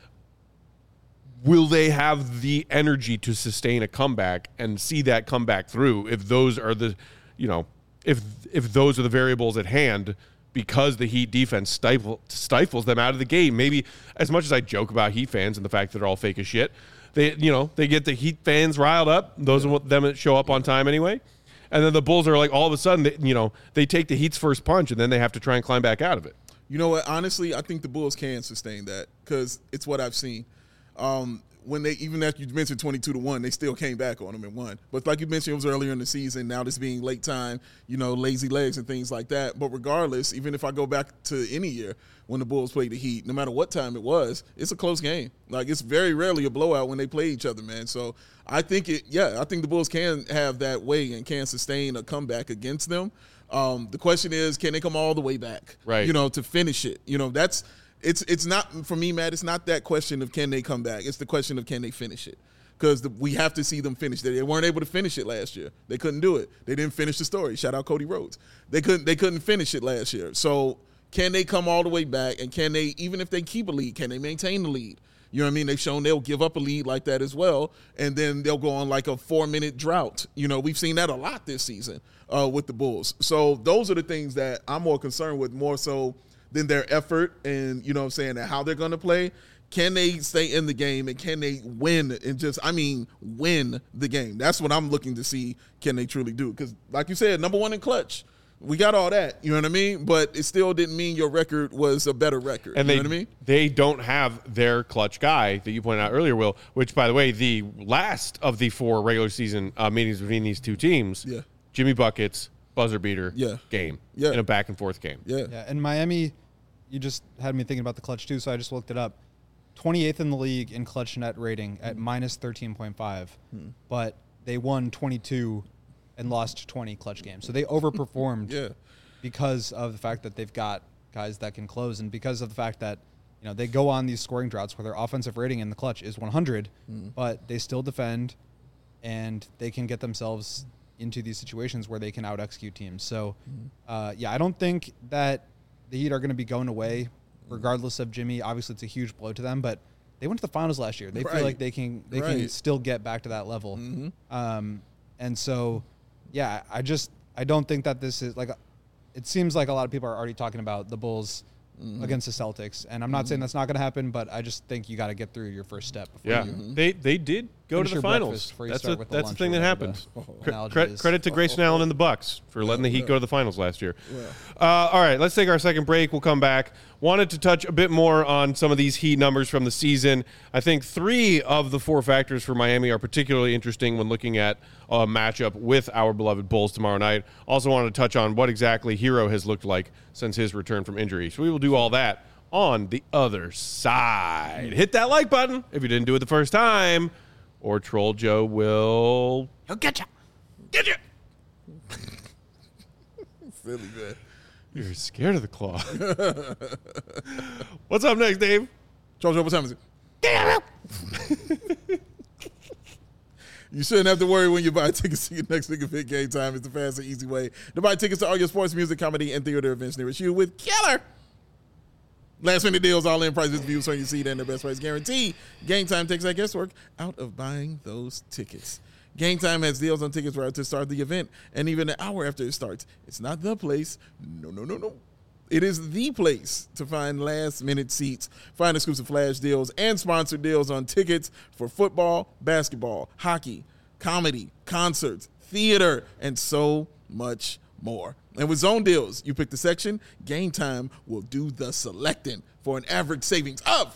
will they have the energy to sustain a comeback and see that comeback through if those are the, you know, if if those are the variables at hand because the Heat defense stifle, stifles them out of the game? Maybe as much as I joke about Heat fans and the fact that they're all fake as shit, they, you know, they get the Heat fans riled up. Those yeah. are them that show up on time anyway. And then the Bulls are like, all of a sudden, they, you know, they take the Heat's first punch and then they have to try and climb back out of it. You know what? Honestly, I think the Bulls can sustain that because it's what I've seen. Um, when they, even after you mentioned twenty-two to one, they still came back on them and won. But like you mentioned, it was earlier in the season. Now this being late time, you know, lazy legs and things like that. But regardless, even if I go back to any year when the Bulls played the Heat, no matter what time it was, it's a close game. Like it's very rarely a blowout when they play each other, man. So I think it, yeah, I think the Bulls can have that way and can sustain a comeback against them. Um, the question is, can they come all the way back? Right. You know, to finish it. You know, that's, It's it's not, for me, Matt, it's not that question of can they come back. It's the question of can they finish it. Because we have to see them finish. They weren't able to finish it last year. They couldn't do it. They didn't finish the story. Shout out Cody Rhodes. They couldn't they couldn't finish it last year. So can they come all the way back? And can they, even if they keep a lead, can they maintain the lead? You know what I mean? They've shown they'll give up a lead like that as well, and then they'll go on like a four-minute drought. You know, we've seen that a lot this season uh, with the Bulls. So those are the things that I'm more concerned with, more so than their effort and, you know what I'm saying, and how they're going to play. Can they stay in the game and can they win and just, I mean, win the game? That's what I'm looking to see, can they truly do? Because like you said, number one in clutch. We got all that, you know what I mean? But it still didn't mean your record was a better record, and you they, know what I mean? They don't have their clutch guy that you pointed out earlier, Will, which, by the way, the last of the four regular season uh, meetings between these two teams, yeah. Jimmy Buckets, buzzer beater yeah. game yeah. in a back-and-forth game. Yeah. yeah. And Miami, you just had me thinking about the clutch, too, so I just looked it up. twenty-eighth in the league in clutch net rating at mm-hmm. minus thirteen point five, hmm. but they won twenty-two and lost twenty clutch games. So they overperformed yeah. because of the fact that they've got guys that can close and because of the fact that, you know, they go on these scoring droughts where their offensive rating in the clutch is one hundred, mm. but they still defend and they can get themselves into these situations where they can out-execute teams. So, mm. uh, yeah, I don't think that the Heat are going to be going away regardless of Jimmy. Obviously, it's a huge blow to them, but they went to the finals last year. They right. feel like they can they right. can still get back to that level. Mm-hmm. Um, and so, yeah, I just I don't think that this is like – it seems like a lot of people are already talking about the Bulls mm-hmm. against the Celtics, and I'm not mm-hmm. saying that's not going to happen, but I just think you got to get through your first step. Before yeah, you. mm-hmm. they they did go Finish to the your finals. breakfast before you That's start a, with the that's the lunch thing or that whatever happened. the Cre- analogy cre- is. credit to Grayson Allen and the Bucks for letting the Heat yeah. go to the finals last year. Yeah. Uh, all right, let's take our second break. We'll come back. Wanted to touch a bit more on some of these Heat numbers from the season. I think three of the four factors for Miami are particularly interesting when looking at a matchup with our beloved Bulls tomorrow night. Also wanted to touch on what exactly Hero has looked like since his return from injury. So we will do all that on the other side. Hit that like button if you didn't do it the first time, or Troll Joe will... He'll get you. Get you! Silly, man. You're scared of the claw. What's up next, Dave? Charles, what time is it? You shouldn't have to worry when you buy tickets to your next Nigga Fit Game Time. It's the fast and easy way to buy tickets to all your sports, music, comedy, and theater events nearest you with Killer. Last minute deals, all in prices, views on your seat, and the best price guarantee. Game Time takes that guesswork out of buying those tickets. Game Time has deals on tickets right to start the event, and even an hour after it starts. It's not the place. No, no, no, no. It is the place to find last-minute seats, find exclusive flash deals, and sponsored deals on tickets for football, basketball, hockey, comedy, concerts, theater, and so much more. And with zone deals, you pick the section, Game Time will do the selecting for an average savings of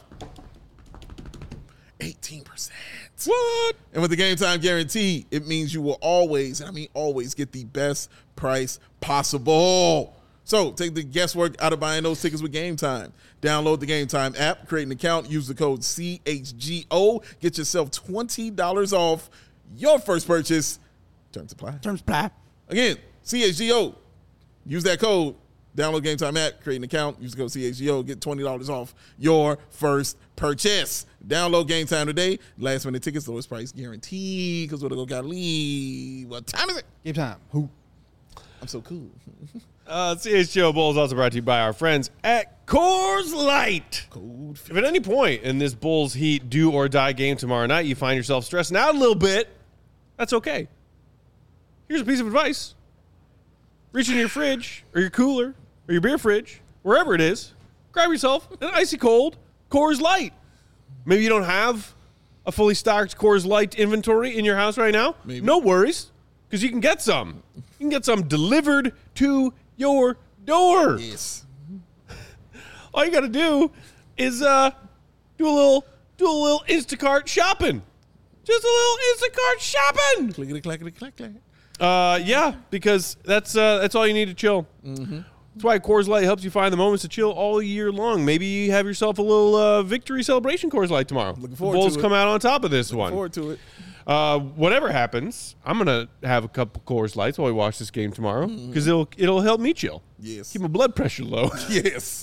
eighteen percent. What? And with the Game Time guarantee, it means you will always, and I mean always, get the best price possible. So take the guesswork out of buying those tickets with Game Time. Download the Game Time app, create an account, use the code C H G O, get yourself twenty dollars off your first purchase. Terms apply. Terms apply. Again, C H G O. Use that code. Download Game Time app, create an account, use the code C H G O, get twenty dollars off your first purchase. Download Game Time today. Last minute tickets, lowest price guaranteed. Because we're going to go leave. What time is it? Game Time. Who? I'm so cool. Uh, C H G O Bulls also brought to you by our friends at Coors Light. Cold. If at any point in this Bulls Heat do or die game tomorrow night you find yourself stressing out a little bit, that's okay. Here's a piece of advice. Reach in your fridge or your cooler or your beer fridge, wherever it is, grab yourself an icy cold Coors Light. Maybe you don't have a fully stocked Coors Light inventory in your house right now. Maybe. No worries, because you can get some. You can get some delivered to your door. Yes. All you got to do is uh, do a little do a little Instacart shopping. Just a little Instacart shopping. Clickety, clackety, clack, clack. Uh, yeah, because that's uh, that's all you need to chill. Mm-hmm. That's why Coors Light helps you find the moments to chill all year long. Maybe you have yourself a little uh, victory celebration Coors Light tomorrow. Looking The forward Bulls to it. come out on top of this Looking one. forward to it. Uh, whatever happens, I'm gonna have a couple Coors Lights while we watch this game tomorrow because it'll it'll help me chill. Yes. Keep my blood pressure low. Yes.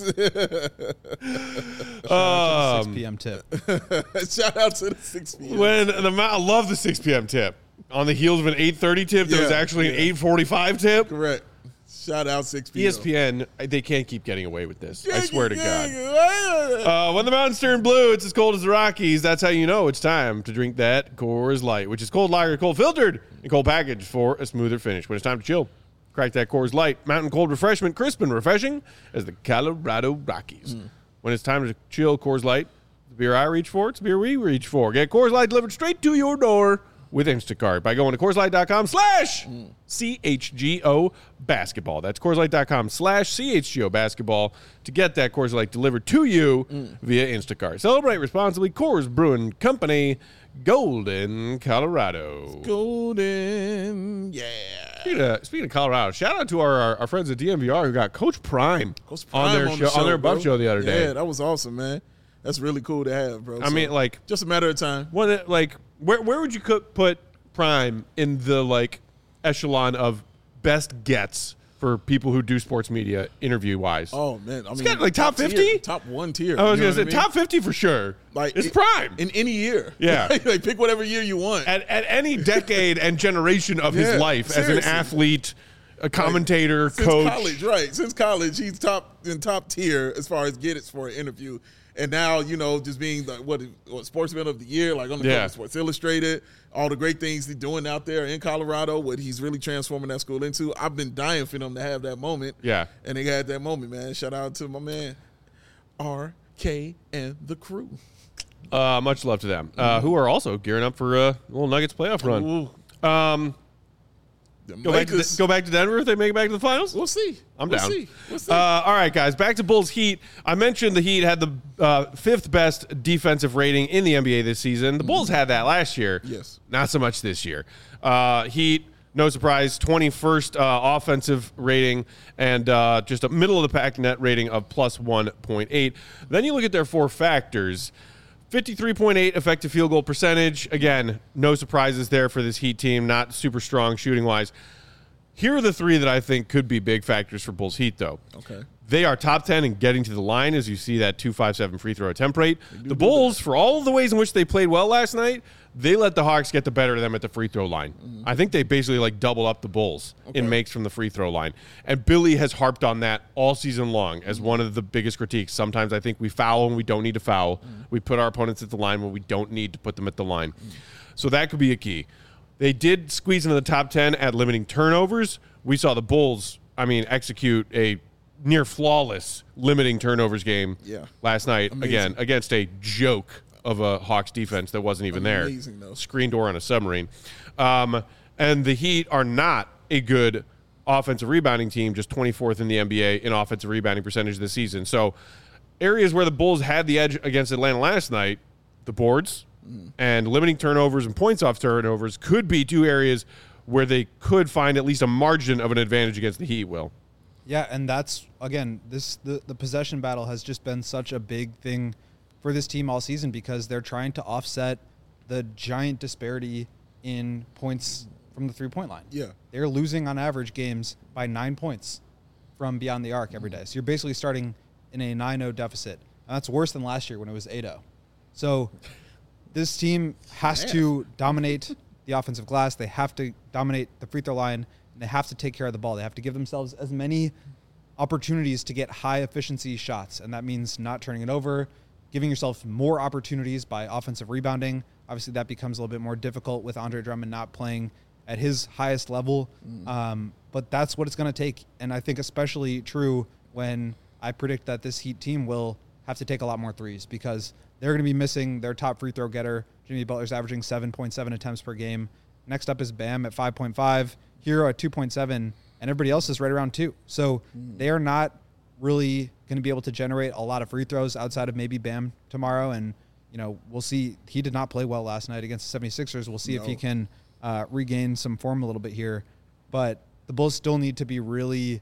six um, p.m. tip. Shout out to the six p.m. when the ma- I love the six p.m. tip on the heels of an eight thirty tip that was Yeah, actually an yeah. eight forty-five tip. Correct. Shout out six p.m. E S P N, they can't keep getting away with this. I Yeah, swear to yeah, God. yeah. Uh, when the mountains turn blue, it's as cold as the Rockies. That's how you know it's time to drink that Coors Light, which is cold lager, cold filtered, and cold packaged for a smoother finish. When it's time to chill, crack that Coors Light. Mountain cold refreshment, crisp and refreshing as the Colorado Rockies. Mm. When it's time to chill, Coors Light, the beer I reach for, it's the beer we reach for. Get Coors Light delivered straight to your door with Instacart by going to CoorsLight.com slash CHGO basketball. That's CoorsLight.com slash CHGO basketball to get that Coors Light delivered to you via Instacart. Celebrate responsibly. Coors Brewing Company, Golden, Colorado. Golden. Yeah. Speaking of, speaking of Colorado, shout out to our, our, our friends at D M V R who got Coach Prime, Coach Prime on their on show, the show, on their Buff bro. show the other day. Yeah, that was awesome, man. That's really cool to have, bro. I So, mean, like, just a matter of time. what, like, where where would you co- put Prime in the like echelon of best gets for people who do sports media interview wise? Oh man, I mean, got, like, top tier, fifty? top one tier. I was you know gonna say what I mean? top fifty for sure. Like it's it- Prime in any year. Yeah. like pick whatever year you want. at at any decade and generation of his Yeah, life as an seriously. athlete, a commentator, Since coach. college, right? Since college, he's top in top tier as far as get it for an interview. And now, you know, just being the what, what sportsman of the year, like on the Yeah. cover of Sports Illustrated, all the great things he's doing out there in Colorado, what he's really transforming that school into. I've been dying for them to have that moment. Yeah. And they had that moment, man. Shout out to my man, R K and the crew. Uh, much love to them, uh, who are also gearing up for a little Nuggets playoff run. Ooh. Um, go back, to the, go back to Denver if they make it back to the finals? We'll see. I'm we'll down. See. We'll see. Uh, all right, guys, back to Bulls Heat. I mentioned the Heat had the uh, fifth best defensive rating in the N B A this season. The Bulls had that last year. Yes. Not so much this year. Uh, Heat, no surprise, twenty-first uh, offensive rating and uh, just a middle-of-the-pack net rating of plus one point eight. Then you look at their four factors. fifty-three point eight effective field goal percentage. Again, no surprises there for this Heat team. Not super strong shooting-wise. Here are the three that I think could be big factors for Bulls Heat, though. Okay. They are top ten in getting to the line, as you see that two fifty-seven free throw attempt rate. The Bulls, for all of the ways in which they played well last night, they let the Hawks get the better of them at the free throw line. Mm-hmm. I think they basically like double up the Bulls okay. in makes from the free throw line. And Billy has harped on that all season long as mm-hmm. one of the biggest critiques. Sometimes I think we foul when we don't need to foul. Mm-hmm. We put our opponents at the line when we don't need to put them at the line. Mm-hmm. So that could be a key. They did squeeze into the top ten at limiting turnovers. We saw the Bulls, I mean, execute a near flawless limiting turnovers game yeah. last night. Amazing. Again, against a joke of a Hawks defense that wasn't even Amazing, there. Though. Screen door on a submarine. Um, and the Heat are not a good offensive rebounding team, just twenty-fourth in the N B A in offensive rebounding percentage this season. So areas where the Bulls had the edge against Atlanta last night, the boards mm. and limiting turnovers and points off turnovers could be two areas where they could find at least a margin of an advantage against the Heat, Will. Yeah, and that's, again, this the, the possession battle has just been such a big thing for this team all season because they're trying to offset the giant disparity in points from the three-point line. Yeah. They're losing on average games by nine points from beyond the arc every day. So you're basically starting in a nine oh deficit. And that's worse than last year when it was eight oh. So this team has to dominate the offensive glass. They have to dominate the free throw line. And they have to take care of the ball. They have to give themselves as many opportunities to get high-efficiency shots. And that means not turning it over, giving yourself more opportunities by offensive rebounding. Obviously, that becomes a little bit more difficult with Andre Drummond not playing at his highest level. Mm. Um, but that's what it's going to take. And I think especially true when I predict that this Heat team will have to take a lot more threes because they're going to be missing their top free throw getter. Jimmy Butler's averaging seven point seven attempts per game. Next up is Bam at five point five. Hero at two point seven. And everybody else is right around two. So mm. they are not really going to be able to generate a lot of free throws outside of maybe Bam tomorrow. And, you know, we'll see. He did not play well last night against the seventy-sixers. We'll see no. if he can uh, regain some form a little bit here. But the Bulls still need to be really,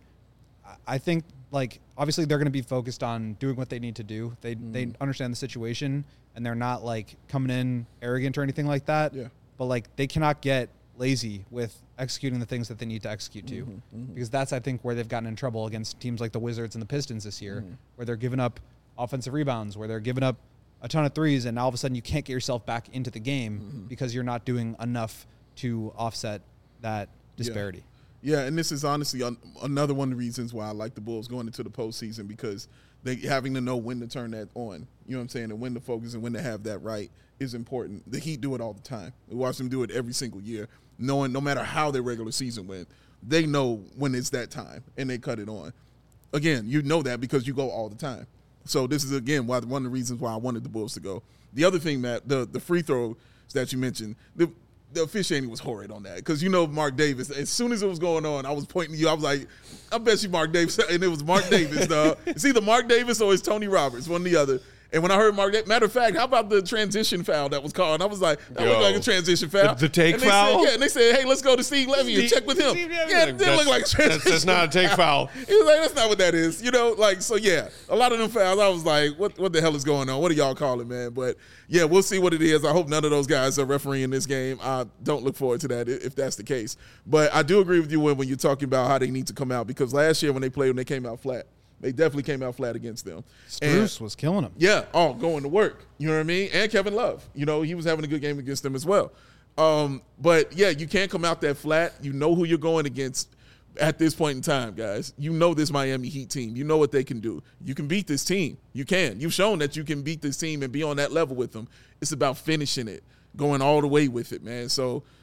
I think, like, obviously they're going to be focused on doing what they need to do. They mm. they understand the situation, and they're not, like, coming in arrogant or anything like that. Yeah. But, like, they cannot get lazy with executing the things that they need to execute to mm-hmm, mm-hmm. because that's, I think, where they've gotten in trouble against teams like the Wizards and the Pistons this year, mm-hmm. where they're giving up offensive rebounds, where they're giving up a ton of threes, and all of a sudden you can't get yourself back into the game mm-hmm. because you're not doing enough to offset that disparity. Yeah, yeah and this is honestly un- another one of the reasons why I like the Bulls going into the postseason because they having to know when to turn that on, you know what I'm saying, and when to focus and when to have that right is important. The Heat do it all the time. We watch them do it every single year, knowing no matter how their regular season went, they know when it's that time, and they cut it on. Again, you know that because you go all the time. So this is, again, why one of the reasons why I wanted the Bulls to go. The other thing, Matt, the, the free throws that you mentioned, the, the officiating was horrid on that because, you know, Mark Davis, as soon as it was going on, I was pointing to you. I was like, I bet you Mark Davis. And it was Mark Davis, dog. It's either Mark Davis or it's Tony Roberts, one or the other. And when I heard Mark, matter of fact, how about the transition foul that was called? And I was like, that Yo, looked like a transition foul. The, the take and they foul? Said, yeah, and they said, hey, let's go to Steve Levy and check with him. Steve yeah, it didn't look like a transition that's, that's not a take foul. He was like, that's not what that is. You know, like, so yeah, a lot of them fouls, I was like, what what the hell is going on? What are y'all calling, man? But yeah, we'll see what it is. I hope none of those guys are refereeing this game. I don't look forward to that if that's the case. But I do agree with you when, when you're talking about how they need to come out because last year when they played, when they came out flat, they definitely came out flat against them. Strus was killing them. Yeah, oh, going to work. You know what I mean? And Kevin Love. You know, he was having a good game against them as well. Um, but, yeah, you can't come out that flat. You know who you're going against at this point in time, guys. You know this Miami Heat team. You know what they can do. You can beat this team. You can. You've shown that you can beat this team and be on that level with them. It's about finishing it, going all the way with it, man. So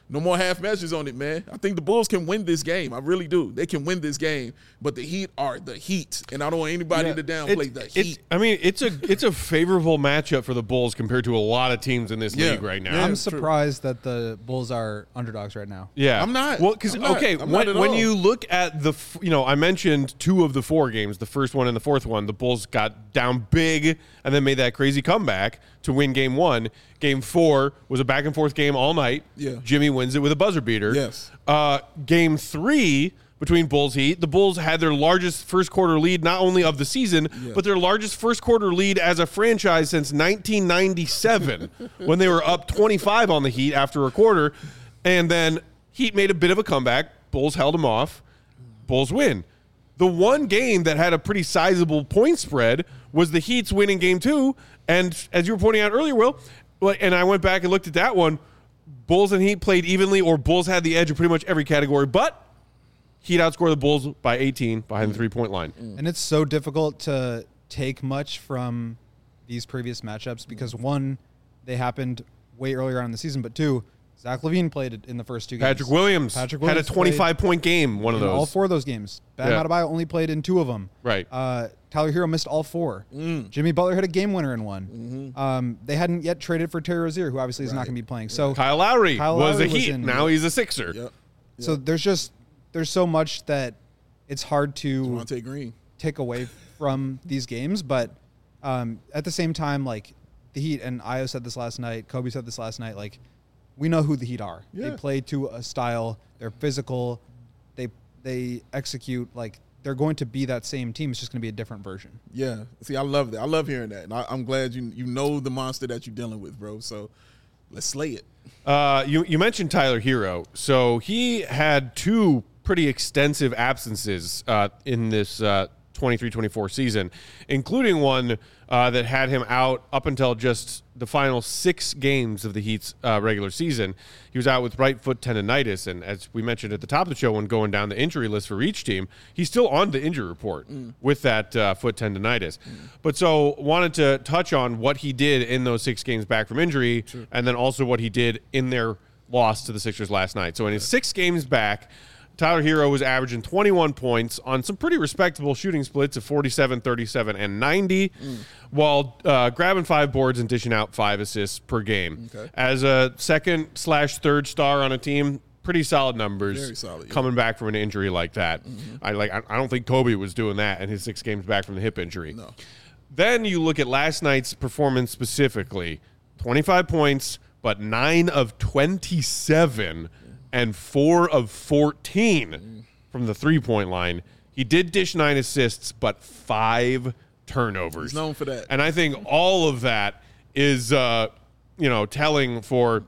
No more half measures on it, man. I think the Bulls can win this game. I really do. They can win this game, but the Heat are the Heat, and I don't want anybody Yeah. to downplay It- the it- Heat. I mean, it's a it's a favorable matchup for the Bulls compared to a lot of teams in this Yeah. league right now. Yeah. I'm it's true. surprised that the Bulls are underdogs right now. Yeah, I'm not. Well, because I'm not. okay, I'm not when, at when all. you look at the, f- you know, I mentioned two of the four games, the first one and the fourth one. The Bulls got down big and then made that crazy comeback to win game one. Game four was a back and forth game all night. Yeah. Jimmy wins it with a buzzer beater. Yes. Uh, game three between Bulls Heat, the Bulls had their largest first quarter lead not only of the season, Yeah. but their largest first quarter lead as a franchise since nineteen ninety-seven when they were up twenty-five on the Heat after a quarter. And then Heat made a bit of a comeback. Bulls held them off. Bulls win. The one game that had a pretty sizable point spread was the Heat's winning game two. And as you were pointing out earlier, Will, like, and I went back and looked at that one, Bulls and Heat played evenly, or Bulls had the edge in pretty much every category, but Heat outscored the Bulls by eighteen behind the three-point line. And it's so difficult to take much from these previous matchups because, one, they happened way earlier on in the season, but two, Zach LaVine played in the first two games. Patrick Williams, Patrick had Williams a twenty-five-point game, one of in those. all four of those games. Bam Yeah. Adebayo only played in two of them. Right. Uh, Tyler Hero missed all four. Mm. Jimmy Butler hit a game winner in one. Mm-hmm. Um, they hadn't yet traded for Terry Rozier, who obviously is not Right. going to be playing. So, Kyle Lowry Kyle was Lowry a was Heat. in- Now he's a Sixer. Yep. so there's just there's so much that it's hard to Devontae Green. take away from these games, but um, at the same time, like the Heat, and Io said this last night, Kobe said this last night, like we know who the Heat are. Yeah. They play to a style. They're physical. They they execute like they're going to be that same team. It's just going to be a different version. Yeah. See, I love that. I love hearing that. And I, I'm glad you you know the monster that you're dealing with, bro. So let's slay it. Uh, you you mentioned Tyler Hero, so he had two pretty extensive absences uh, in this uh, twenty-three twenty-four season, including one uh, that had him out up until just the final six games of the Heat's uh, regular season. He was out with right foot tendonitis, and as we mentioned at the top of the show when going down the injury list for each team, he's still on the injury report mm. with that uh, foot tendonitis. Mm. But so wanted to touch on what he did in those six games back from injury, sure. and then also what he did in their loss to the Sixers last night. So in his six games back, Tyler Hero was averaging twenty-one points on some pretty respectable shooting splits of forty-seven, thirty-seven, and ninety, mm. while uh, grabbing five boards and dishing out five assists per game. Okay. As a second slash third star on a team, pretty solid numbers. Very solid, yeah. Coming back from an injury like that. Mm-hmm. I like. I, I don't think Kobe was doing that in his six games back from the hip injury. No. Then you look at last night's performance specifically: twenty-five points, but nine of twenty-seven. And four of fourteen mm. from the three-point line. He did dish nine assists, but five turnovers. He's known for that. And I think all of that is, uh, you know, telling for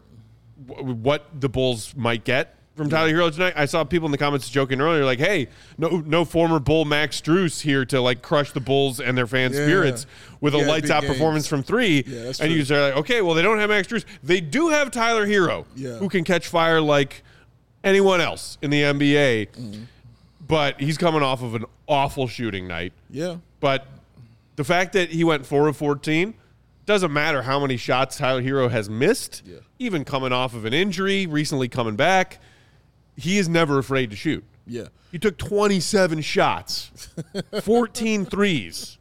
w- what the Bulls might get from Tyler Hero tonight. I saw people in the comments joking earlier, like, "Hey, no, no former Bull Max Strus here to like crush the Bulls and their fans' yeah. spirits with yeah, a lights-out performance from three." Yeah, that's and true. you say, like, "Okay, well, they don't have Max Strus. They do have Tyler Hero, yeah. who can catch fire like anyone else in the N B A." Mm-hmm. But he's coming off of an awful shooting night. Yeah. But the fact that he went four of fourteen doesn't matter how many shots Tyler Hero has missed, yeah. even coming off of an injury, recently coming back. He is never afraid to shoot. Yeah. He took twenty-seven shots, fourteen threes.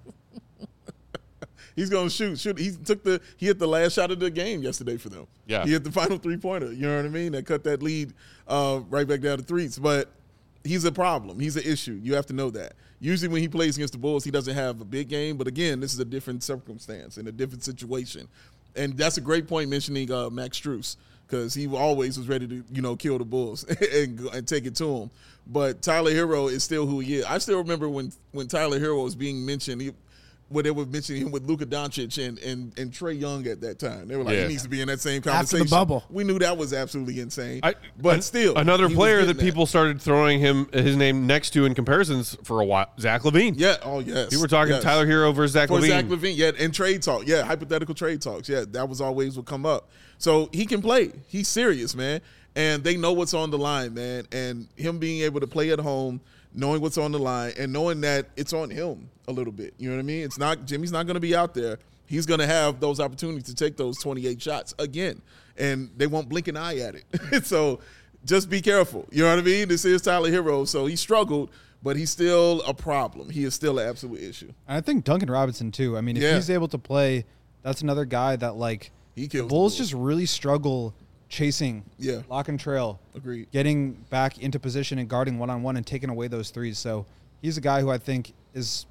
He's gonna shoot. Shoot. He took the. He hit the last shot of the game yesterday for them. Yeah. He hit the final three pointer. You know what I mean? That cut that lead uh, right back down to threes. But he's a problem. He's an issue. You have to know that. Usually when he plays against the Bulls, he doesn't have a big game. But again, this is a different circumstance and a different situation. And that's a great point mentioning uh, Max Strus, because he always was ready to, you know, kill the Bulls and, and take it to him. But Tyler Hero is still who he is. I still remember when when Tyler Hero was being mentioned. He, When they were mentioning him with Luka Doncic and, and, and Trae Young at that time. They were like, yeah. he needs to be in that same After conversation. the bubble. We knew that was absolutely insane. I, but an, still. Another he was player getting that people started throwing him his name next to in comparisons for a while, Zach LaVine. Yeah, oh, yes. We were talking yes. Tyler Hero versus Zach For LaVine. Zach LaVine, yeah, and trade talk. Yeah, hypothetical trade talks. Yeah, that was always what come up. So he can play. He's serious, man. And they know what's on the line, man. And him being able to play at home, knowing what's on the line, and knowing that it's on him a little bit. You know what I mean? It's not Jimmy's not going to be out there he's going to have those opportunities to take those twenty-eight shots again, and they won't blink an eye at it. So just be careful. You know what I mean? This is Tyler Hero, so he struggled, but he's still a problem. He is still an absolute issue. And I think Duncan Robinson too. I mean, if Yeah. he's able to play, that's another guy that like He the kills the Bulls Bulls. just really struggle chasing, Yeah. lock and trail, Agreed. getting back into position and guarding one on one and taking away those threes. So he's a guy who I think is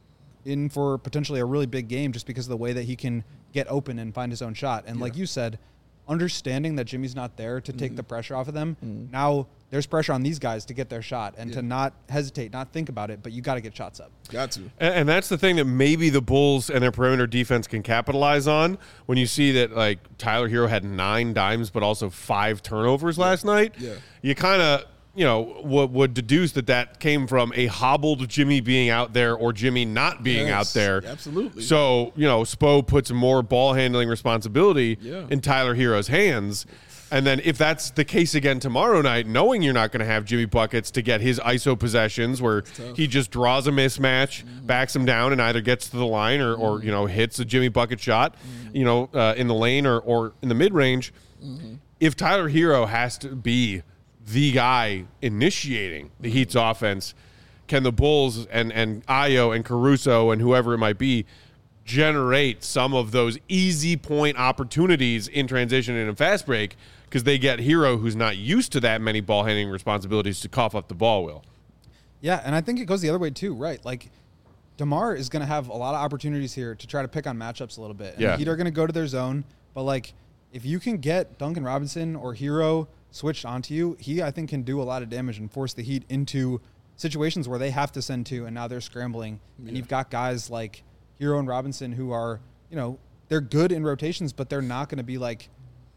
in for potentially a really big game just because of the way that he can get open and find his own shot. And like you said, understanding that Jimmy's not there to take Mm-hmm. the pressure off of them, now there's pressure on these guys to get their shot and Yeah. to not hesitate, not think about it, but you got to get shots up. Got to. And, and that's the thing that maybe the Bulls and their perimeter defense can capitalize on when you see that like Tyler Hero had nine dimes but also five turnovers last night. Yeah. You kind of, you know, would, would deduce that that came from a hobbled Jimmy being out there or Jimmy not being Yes, out there. absolutely. So, you know, Spo puts more ball handling responsibility Yeah. in Tyler Hero's hands. And then if that's the case again tomorrow night, knowing you're not going to have Jimmy buckets to get his I S O possessions where he just draws a mismatch, Mm-hmm. backs him down, and either gets to the line or, or you know, hits a Jimmy bucket shot, Mm-hmm. you know, uh, in the lane or, or in the mid-range. Mm-hmm. If Tyler Hero has to be the guy initiating the Heat's offense, can the Bulls and, and Ayo and Caruso and whoever it might be generate some of those easy point opportunities in transition and in fast break because they get Hero, who's not used to that many ball handling responsibilities, to cough up the ball, Will. Yeah, and I think it goes the other way too, right? Like DeMar is going to have a lot of opportunities here to try to pick on matchups a little bit. And Yeah. the Heat are going to go to their zone, but like if you can get Duncan Robinson or Hero switched onto you, he I think can do a lot of damage and force the Heat into situations where they have to send two and now they're scrambling. And you've got guys like Hero and Robinson who are, you know, they're good in rotations, but they're not going to be like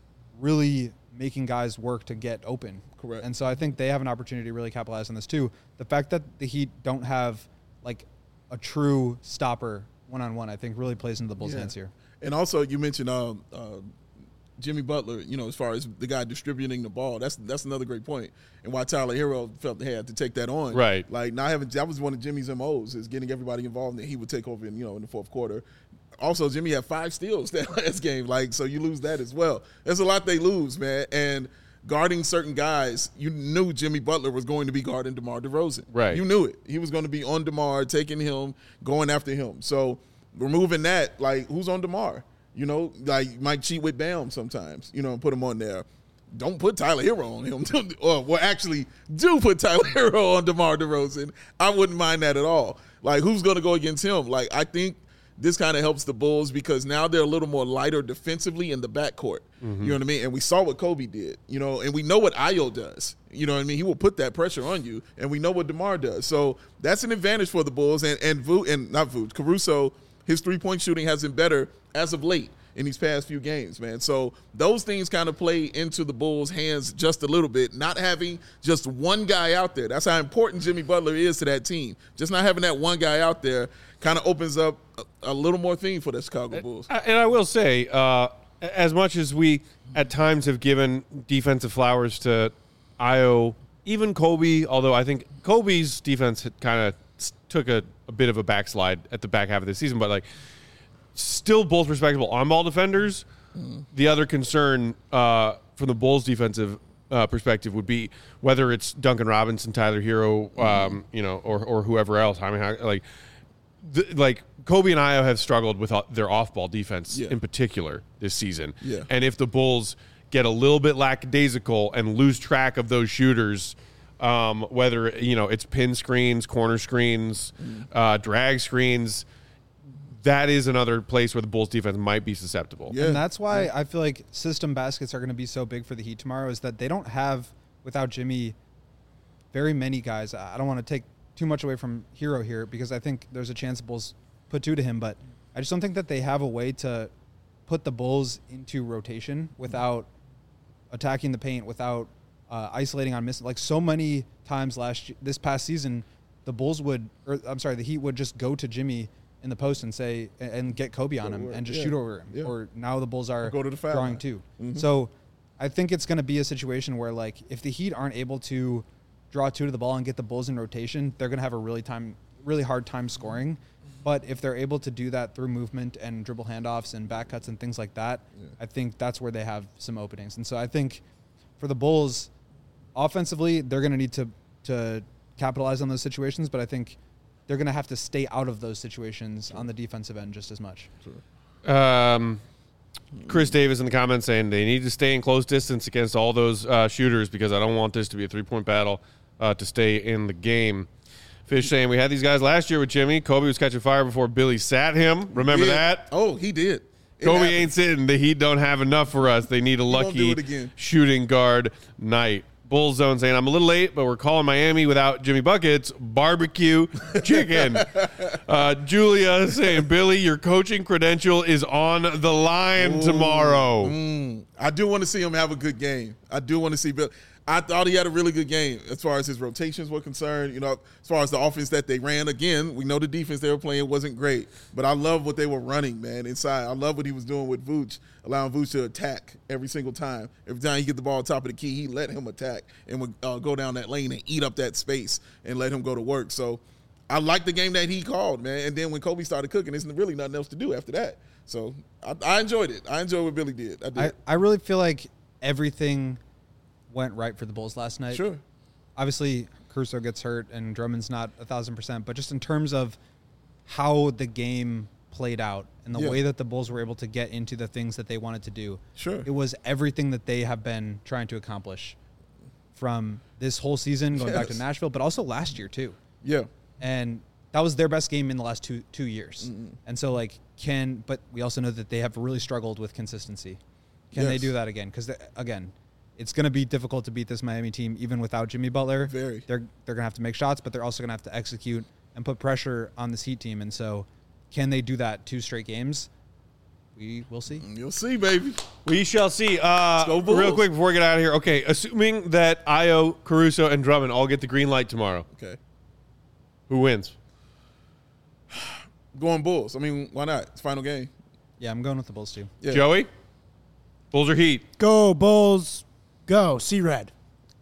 really making guys work to get open. Correct. And so I think they have an opportunity to really capitalize on this too. The fact that the Heat don't have like a true stopper one-on-one, I think really plays into the Bulls' Yeah. hands here. And also, you mentioned uh, uh, Jimmy Butler, you know, as far as the guy distributing the ball. That's that's another great point. And why Tyler Hero felt they had to take that on. Right. Like, not having, that was one of Jimmy's M Os, is getting everybody involved, and he would take over in, you know, in the fourth quarter. Also, Jimmy had five steals that last game. Like, so you lose that as well. There's a lot they lose, man. And guarding certain guys, you knew Jimmy Butler was going to be guarding DeMar DeRozan. Right. You knew it. He was going to be on DeMar, taking him, going after him. So removing that, like, who's on DeMar? You know, like, you might cheat with Bam sometimes, you know, and put him on there. Don't put Tyler Hero on him. Or, well, actually, do put Tyler Hero on DeMar DeRozan. I wouldn't mind that at all. Like, who's going to go against him? Like, I think this kind of helps the Bulls because now they're a little more lighter defensively in the backcourt. You know what I mean? And we saw what Kobe did, you know, and we know what Ayo does. You know what I mean? He will put that pressure on you, and we know what DeMar does. So that's an advantage for the Bulls. And and Vu, and not Vu, Caruso, his three-point shooting has been better as of late in these past few games, man. So those things kind of play into the Bulls' hands just a little bit, not having just one guy out there. That's how important Jimmy Butler is to that team. Just not having that one guy out there kind of opens up a, a little more thing for the Chicago Bulls. And I will say, uh, as much as we at times have given defensive flowers to Ayo, even Kobe, although I think Kobe's defense kind of took a, a bit of a backslide at the back half of the season, but like still both respectable on-ball defenders. Mm. The other concern uh, from the Bulls' defensive uh, perspective would be whether it's Duncan Robinson, Tyler Hero, um, mm. you know, or or whoever else. I mean, how, like, the, like Kobe and Ayo have struggled with their off-ball defense yeah. in particular this season. Yeah. And if the Bulls get a little bit lackadaisical and lose track of those shooters, um, whether you know it's pin screens, corner screens, mm. uh, drag screens. That is another place where the Bulls defense might be susceptible. Yeah. And that's why yeah. I feel like system baskets are going to be so big for the Heat tomorrow is that they don't have, without Jimmy, very many guys. I don't want to take too much away from Hero here because I think there's a chance the Bulls put two to him, but I just don't think that they have a way to put the Bulls into rotation without attacking the paint, without uh, isolating on miss. Like so many times last this past season, the Bulls would, or I'm sorry, the Heat would just go to Jimmy in the post and say and get Kobe on him and just yeah. shoot over him. Yeah. Or now the Bulls are or go to the foul drawing line. two. Mm-hmm. So I think it's going to be a situation where like if the Heat aren't able to draw two to the ball and get the Bulls in rotation, they're going to have a really time really hard time scoring. But if they're able to do that through movement and dribble handoffs and back cuts and things like that, yeah. I think that's where they have some openings. And so I think for the Bulls, offensively, they're going to need to to capitalize on those situations, but I think they're going to have to stay out of those situations sure. on the defensive end just as much. Sure. Um, Chris Davis in the comments saying they need to stay in close distance against all those uh, shooters because I don't want this to be a three-point battle uh, to stay in the game. Fish saying we had these guys last year with Jimmy. Kobe was catching fire before Billy sat him. Remember yeah. that? Oh, he did. It Kobe happened. ain't sitting. The Heat don't have enough for us. They need a lucky shooting guard night. Bull Zone saying, I'm a little late, but we're calling Miami without Jimmy Buckets. Barbecue chicken. uh, Julia saying, Billy, your coaching credential is on the line Ooh, tomorrow. Mm, I do want to see him have a good game. I do want to see Bill. I thought he had a really good game as far as his rotations were concerned. You know, as far as the offense that they ran, again, we know the defense they were playing wasn't great. But I love what they were running, man, inside. I love what he was doing with Vooch, allowing Vooch to attack every single time. Every time he get the ball top of the key, he let him attack and would uh, go down that lane and eat up that space and let him go to work. So I like the game that he called, man. And then when Kobe started cooking, there's really nothing else to do after that. So I, I enjoyed it. I enjoyed what Billy did. I did. I, I really feel like everything – went right for the Bulls last night. Sure. Obviously, Caruso gets hurt and Drummond's not a thousand percent, but just in terms of how the game played out and the yeah. way that the Bulls were able to get into the things that they wanted to do. Sure. It was everything that they have been trying to accomplish from this whole season, going yes. back to Nashville, but also last year too. Yeah. And that was their best game in the last two two years. Mm-hmm. And so, like, can, but we also know that they have really struggled with consistency. Can yes. they do that again? Because, again, it's going to be difficult to beat this Miami team even without Jimmy Butler. Very. They're they're going to have to make shots, but they're also going to have to execute and put pressure on this Heat team. And so can they do that two straight games? We will see. You'll see, baby. We shall see. Uh, real quick before we get out of here. Okay, assuming that Ayo, Caruso, and Drummond all get the green light tomorrow. Okay. Who wins? Going Bulls. I mean, why not? It's final game. Yeah, I'm going with the Bulls too. Yeah. Joey? Bulls or Heat? Go, Bulls. Go, C-Red.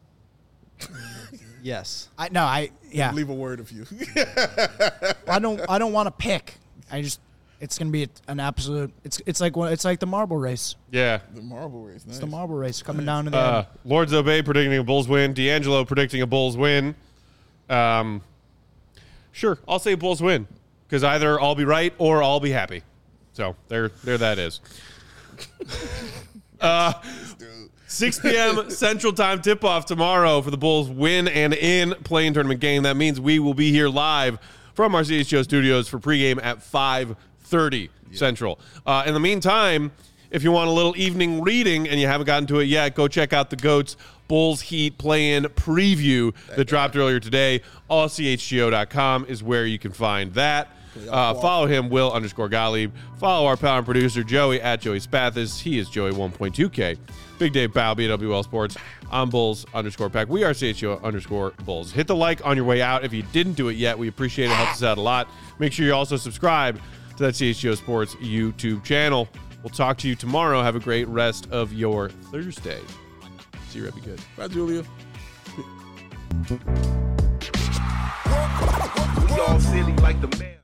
Yes. I no, I yeah. Leave a word of you. I don't I don't want to pick. I just it's gonna be an absolute. It's it's like it's like the marble race. Yeah, the marble race. Nice. It's the marble race coming down to the uh, end. Lord Zobey predicting a Bulls win. D'Angelo predicting a Bulls win. Um, sure, I'll say Bulls win because either I'll be right or I'll be happy. So there, there that is. uh, six p.m. Central Time tip-off tomorrow for the Bulls win and in play-in tournament game. That means we will be here live from our C H G O studios for pregame at five thirty yeah. Central. Uh, in the meantime, if you want a little evening reading and you haven't gotten to it yet, go check out the GOATS Bulls Heat play-in preview that, that dropped earlier today. all C H G O dot com is where you can find that. Uh, follow him, Will underscore Gottlieb. Follow our pal and producer, Joey, at Joey Spathis. He is Joey one point two K. Big Dave Bow, B W L Sports. I'm Bulls underscore Pack. We are C H G O underscore Bulls. Hit the like on your way out. If you didn't do it yet, we appreciate it. It helps us out a lot. Make sure you also subscribe to that C H G O Sports YouTube channel. We'll talk to you tomorrow. Have a great rest of your Thursday. See you, Red. Be good. Bye, Julia. We all silly like the man.